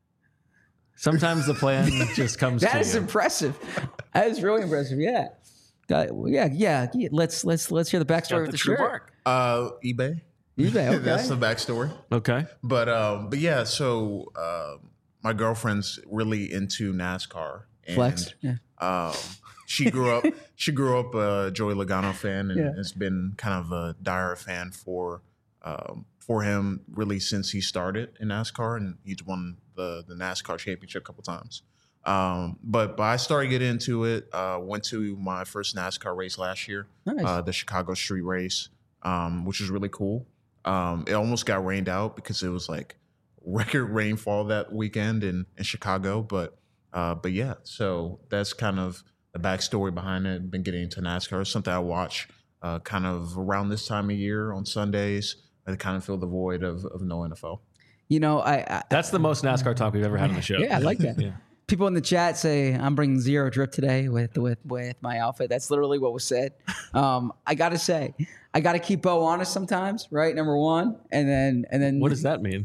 Sometimes the plan just comes. That to is you. impressive. That is really impressive. Yeah. Uh, yeah, yeah, yeah. Let's let's let's hear the backstory of the, the shirt. Mark. Uh, eBay. eBay. Okay. That's the backstory. Okay. But um, but yeah. So uh, my girlfriend's really into NASCAR. And, Flex. Yeah. Um, she grew up. She grew up a Joey Logano fan, and yeah. has been kind of a dire fan for um, for him really since he started in NASCAR, and he's won the the NASCAR championship a couple times. Um, but but I started getting into it. Uh, went to my first NASCAR race last year, nice. uh, the Chicago Street Race, um, which was really cool. Um, it almost got rained out because it was like record rainfall that weekend in, in Chicago. But uh, but yeah, so that's kind of the backstory behind it. Been getting into NASCAR. It's something I watch uh, kind of around this time of year on Sundays. I kind of fill the void of, of no N F L. You know, I, I that's the most NASCAR talk we've ever had on the show. Yeah, I like that. yeah. People in the chat say I'm bringing zero drip today with with with my outfit. That's literally what was said. Um, I gotta say, I gotta keep Bo honest sometimes, right? Number one, and then and then what does that mean?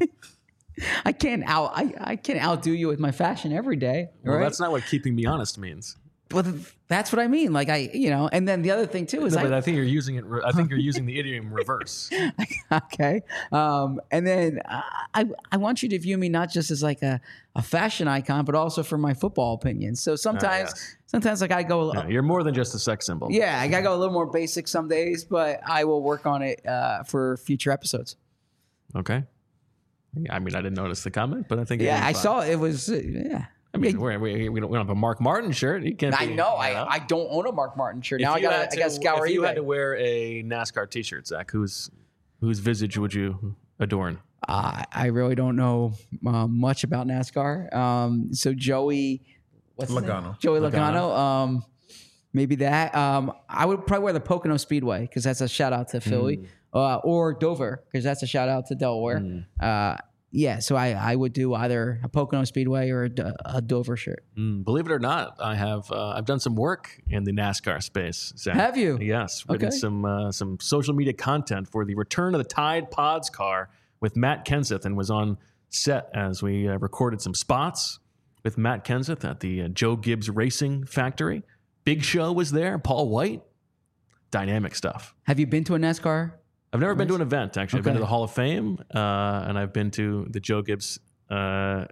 I can't out I, I can't outdo you with my fashion every day. Well, right? That's not what keeping me honest means. Well, that's what I mean. Like I, you know, and then the other thing too is no, I, but I think you're using it. I think you're using the idiom reverse. Okay, um, and then I, I want you to view me not just as like a, a fashion icon, but also for my football opinions. So sometimes, uh, yes. sometimes like I go. Yeah, you're more than just a sex symbol. Yeah, I gotta go a little more basic some days, but I will work on it uh, for future episodes. Okay. I mean, I didn't notice the comment, but I think yeah, I saw it. It was uh, yeah. I mean, we're, we we don't, we don't have a Mark Martin shirt. You can't. I be, know. You know. I, I don't own a Mark Martin shirt. If now I got I got to scour If you eBay. had to wear a NASCAR T-shirt, Zach, whose whose visage would you adorn? Uh, I really don't know uh, much about NASCAR. Um, so Joey, what's Logano. Joey Logano. Logano. Um, maybe that. Um, I would probably wear the Pocono Speedway because that's a shout out to Philly, mm. uh, or Dover because that's a shout out to Delaware. Mm. Uh, Yeah, so I, I would do either a Pocono Speedway or a, a Dover shirt. Mm, believe it or not, I have uh, I've done some work in the NASCAR space. Zach. Have you? Yes, written okay. some uh, some social media content for the return of the Tide Pods car with Matt Kenseth, and was on set as we uh, recorded some spots with Matt Kenseth at the uh, Joe Gibbs Racing Factory. Big Show was there. Paul White, dynamic stuff. Have you been to a NASCAR? I've never been to an event, actually. Okay. I've been to the Hall of Fame, uh, and I've been to the Joe Gibbs uh,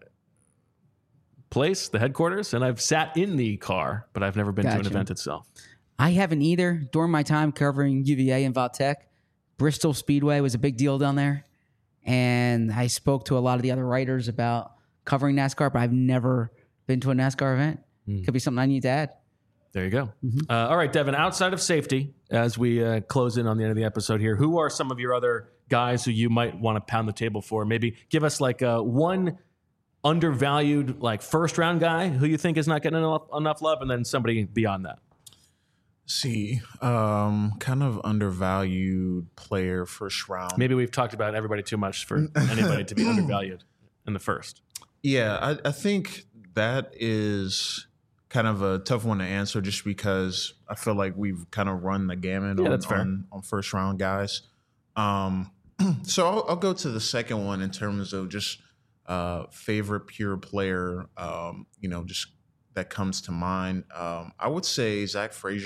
place, the headquarters, and I've sat in the car, but I've never been gotcha. to an event itself. I haven't either. During my time covering U V A and Valtech, Bristol Speedway was a big deal down there, and I spoke to a lot of the other writers about covering NASCAR, but I've never been to a NASCAR event. Mm. Could be something I need to add. There you go. Mm-hmm. Uh, all right, Devin, outside of safety, as we uh, close in on the end of the episode here, who are some of your other guys who you might want to pound the table for? Maybe give us like a one undervalued, like first round guy who you think is not getting enough, enough love, and then somebody beyond that. See, um, kind of undervalued player first round. Maybe we've talked about everybody too much for anybody to be undervalued in the first. Yeah, I, I think that is kind of a tough one to answer just because I feel like we've kind of run the gamut yeah, on, that's fair. on, on first round guys. Um, so I'll, I'll go to the second one in terms of just uh, favorite pure player, um, you know, just that comes to mind. Um, I would say Zach Frazier.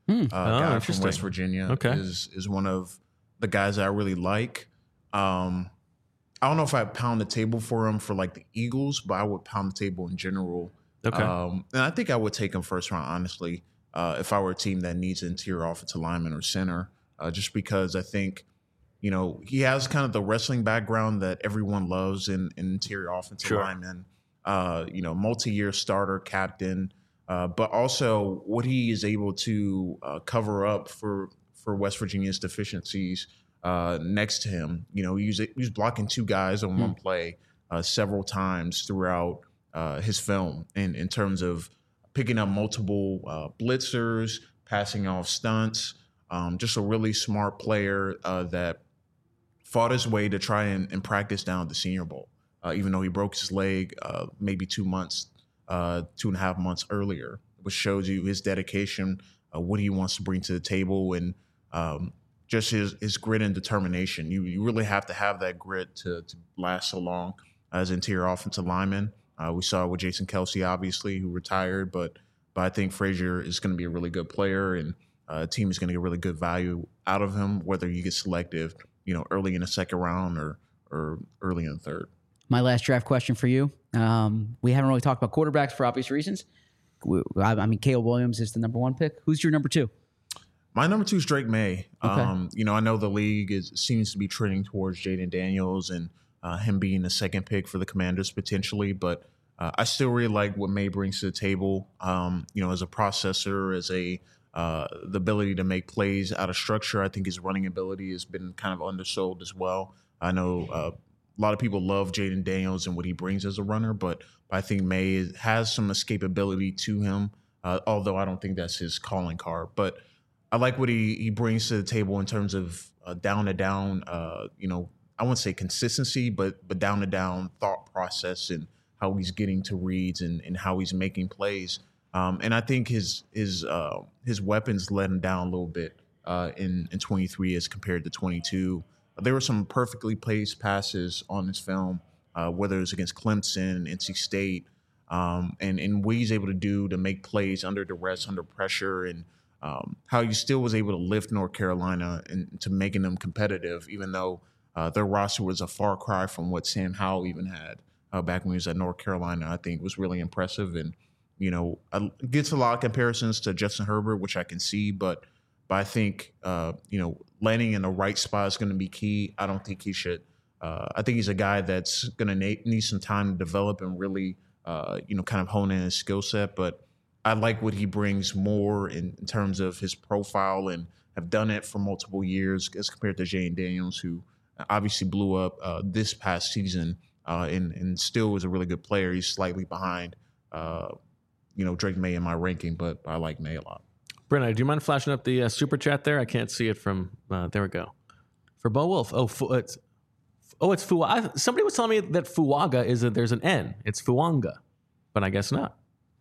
uh, Oh, guy from interesting. West Virginia, Okay. is is one of the guys that I really like. Um, I don't know if I'd pound the table for him for like the Eagles, but I would pound the table in general. Okay. Um, and I think I would take him first round, honestly, uh, if I were a team that needs an interior offensive lineman or center, uh, just because I think, you know, he has kind of the wrestling background that everyone loves in, in interior offensive Sure. lineman, uh, you know, multi-year starter, captain, uh, but also what he is able to uh, cover up for, for West Virginia's deficiencies uh, next to him. You know, he was, he was blocking two guys on one play uh, several times throughout uh, his film in, in terms of picking up multiple uh, blitzers, passing off stunts, um, just a really smart player uh, that fought his way to try and, and practice down at the Senior Bowl, uh, even though he broke his leg uh, maybe two months, uh, two and a half months earlier, which shows you his dedication, uh, what he wants to bring to the table, and um, just his, his grit and determination. You you really have to have that grit to, to last so long as interior offensive lineman. Uh, we saw it with Jason Kelsey, obviously, who retired, but but I think Frazier is going to be a really good player, and uh, a team is going to get really good value out of him, whether you get selective, you know, early in the second round or or early in the third. My last draft question for you. Um, we haven't really talked about quarterbacks for obvious reasons. We- I I mean, Caleb Williams is the number one pick. Who's your number two? My number two is Drake May. Okay. Um, you know, I know the league is seems to be trending towards Jaden Daniels and uh, him being the second pick for the Commanders potentially, but uh, I still really like what May brings to the table. Um, you know, as a processor, as a uh, the ability to make plays out of structure. I think his running ability has been kind of undersold as well. I know uh, a lot of people love Jaden Daniels and what he brings as a runner, but I think May is, has some escapability to him, uh, although I don't think that's his calling card. But I like what he, he brings to the table in terms of uh, down to down, uh, you know, I wouldn't say consistency, but but down to down thought process and how he's getting to reads and, and how he's making plays. Um, and I think his his uh, his weapons let him down a little bit uh, in in twenty-three as compared to twenty-two. There were some perfectly placed passes on this film, uh, whether it was against Clemson, N C State, um, and and what he's able to do to make plays under duress, under pressure, and um, how he still was able to lift North Carolina and to making them competitive, even though uh, their roster was a far cry from what Sam Howell even had uh, back when he was at North Carolina. I think was really impressive, and you know, I, gets a lot of comparisons to Justin Herbert, which I can see, but but I think uh, you know, landing in the right spot is going to be key. I don't think he should. Uh, I think he's a guy that's going to na- need some time to develop and really, uh, you know, kind of hone in his skill set, but I like what he brings more in, in terms of his profile and have done it for multiple years as compared to Jaden Daniels, who obviously blew up uh, this past season uh, and, and still was a really good player. He's slightly behind, uh, you know, Drake May in my ranking, but I like May a lot. Brenna, do you mind flashing up the uh, super chat there? I can't see it from, uh, there we go. For Bo Wolf. Oh, fu- it's, oh, it's Fuaga. Somebody was telling me that Fuaga is a, there's an N. It's Fuanga, but I guess not.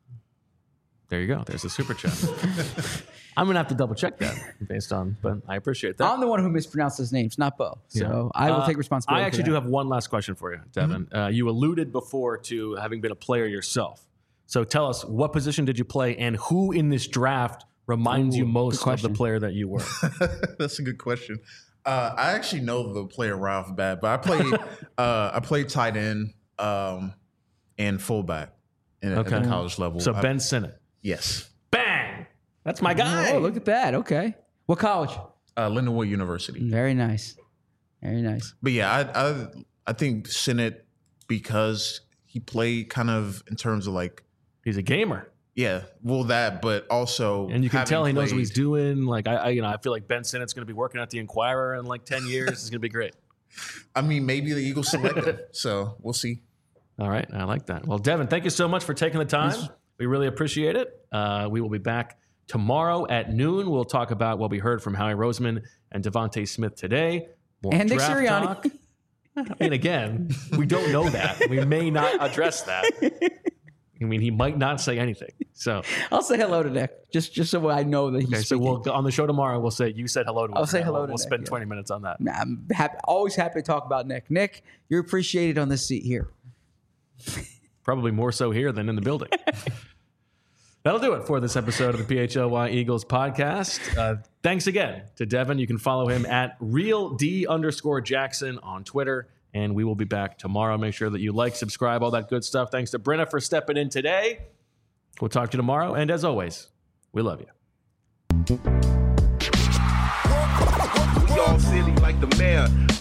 There you go. There's a super chat. I'm gonna have to double check that based on, but I appreciate that. I'm the one who mispronounced his names, not Bo. So Yeah. I will Uh, take responsibility. I actually for do that. have one last question for you, Devin. Mm-hmm. Uh, you alluded before to having been a player yourself. So tell us, what position did you play, and who in this draft reminds Ooh, you good most of question. the player that you were? That's a good question. Uh, I actually know the player right off the bat, but I played uh, I played tight end um, and fullback in, Okay. at the college level. So I- Ben Sinnott. yes, Bang! That's my guy. Oh, look at that. Okay. What college? uh, Lindenwood University. Very nice. Very nice. But yeah, I I, I think Sinnott, because he played kind of in terms of like He's a gamer, yeah, well that, but also and you can having tell he knows what played- he's doing. Like I, I, you know, I feel like Ben Sinnott's going to be working at the Inquirer in like ten years. It's going to be great. I mean, maybe the Eagles select him, so we'll see. All right, I like that. Well, Devin, thank you so much for taking the time. We really appreciate it. Uh, we will be back tomorrow at noon. We'll talk about what we heard from Howie Roseman and Devontae Smith today. More And Nick draft Sirianni. talk. I mean, again, we don't know that. We may not address that. I mean, he might not say anything. So, I'll say hello to Nick, just just so I know that he's okay, so speaking. we'll on the show tomorrow. We'll say you said hello to him. I'll say hello We'll, to we'll Nick, spend yeah. twenty minutes on that. Nah, I'm happy, always happy to talk about Nick. Nick, you're appreciated on this seat here. Probably more so here than in the building. That'll do it for this episode of the P H L Y Eagles podcast. Uh, thanks again to Devin. You can follow him at RealD underscore Jackson on Twitter. And we will be back tomorrow. Make sure that you like, subscribe, all that good stuff. Thanks to Brenna for stepping in today. We'll talk to you tomorrow. And as always, we love you. We all silly like the mayor.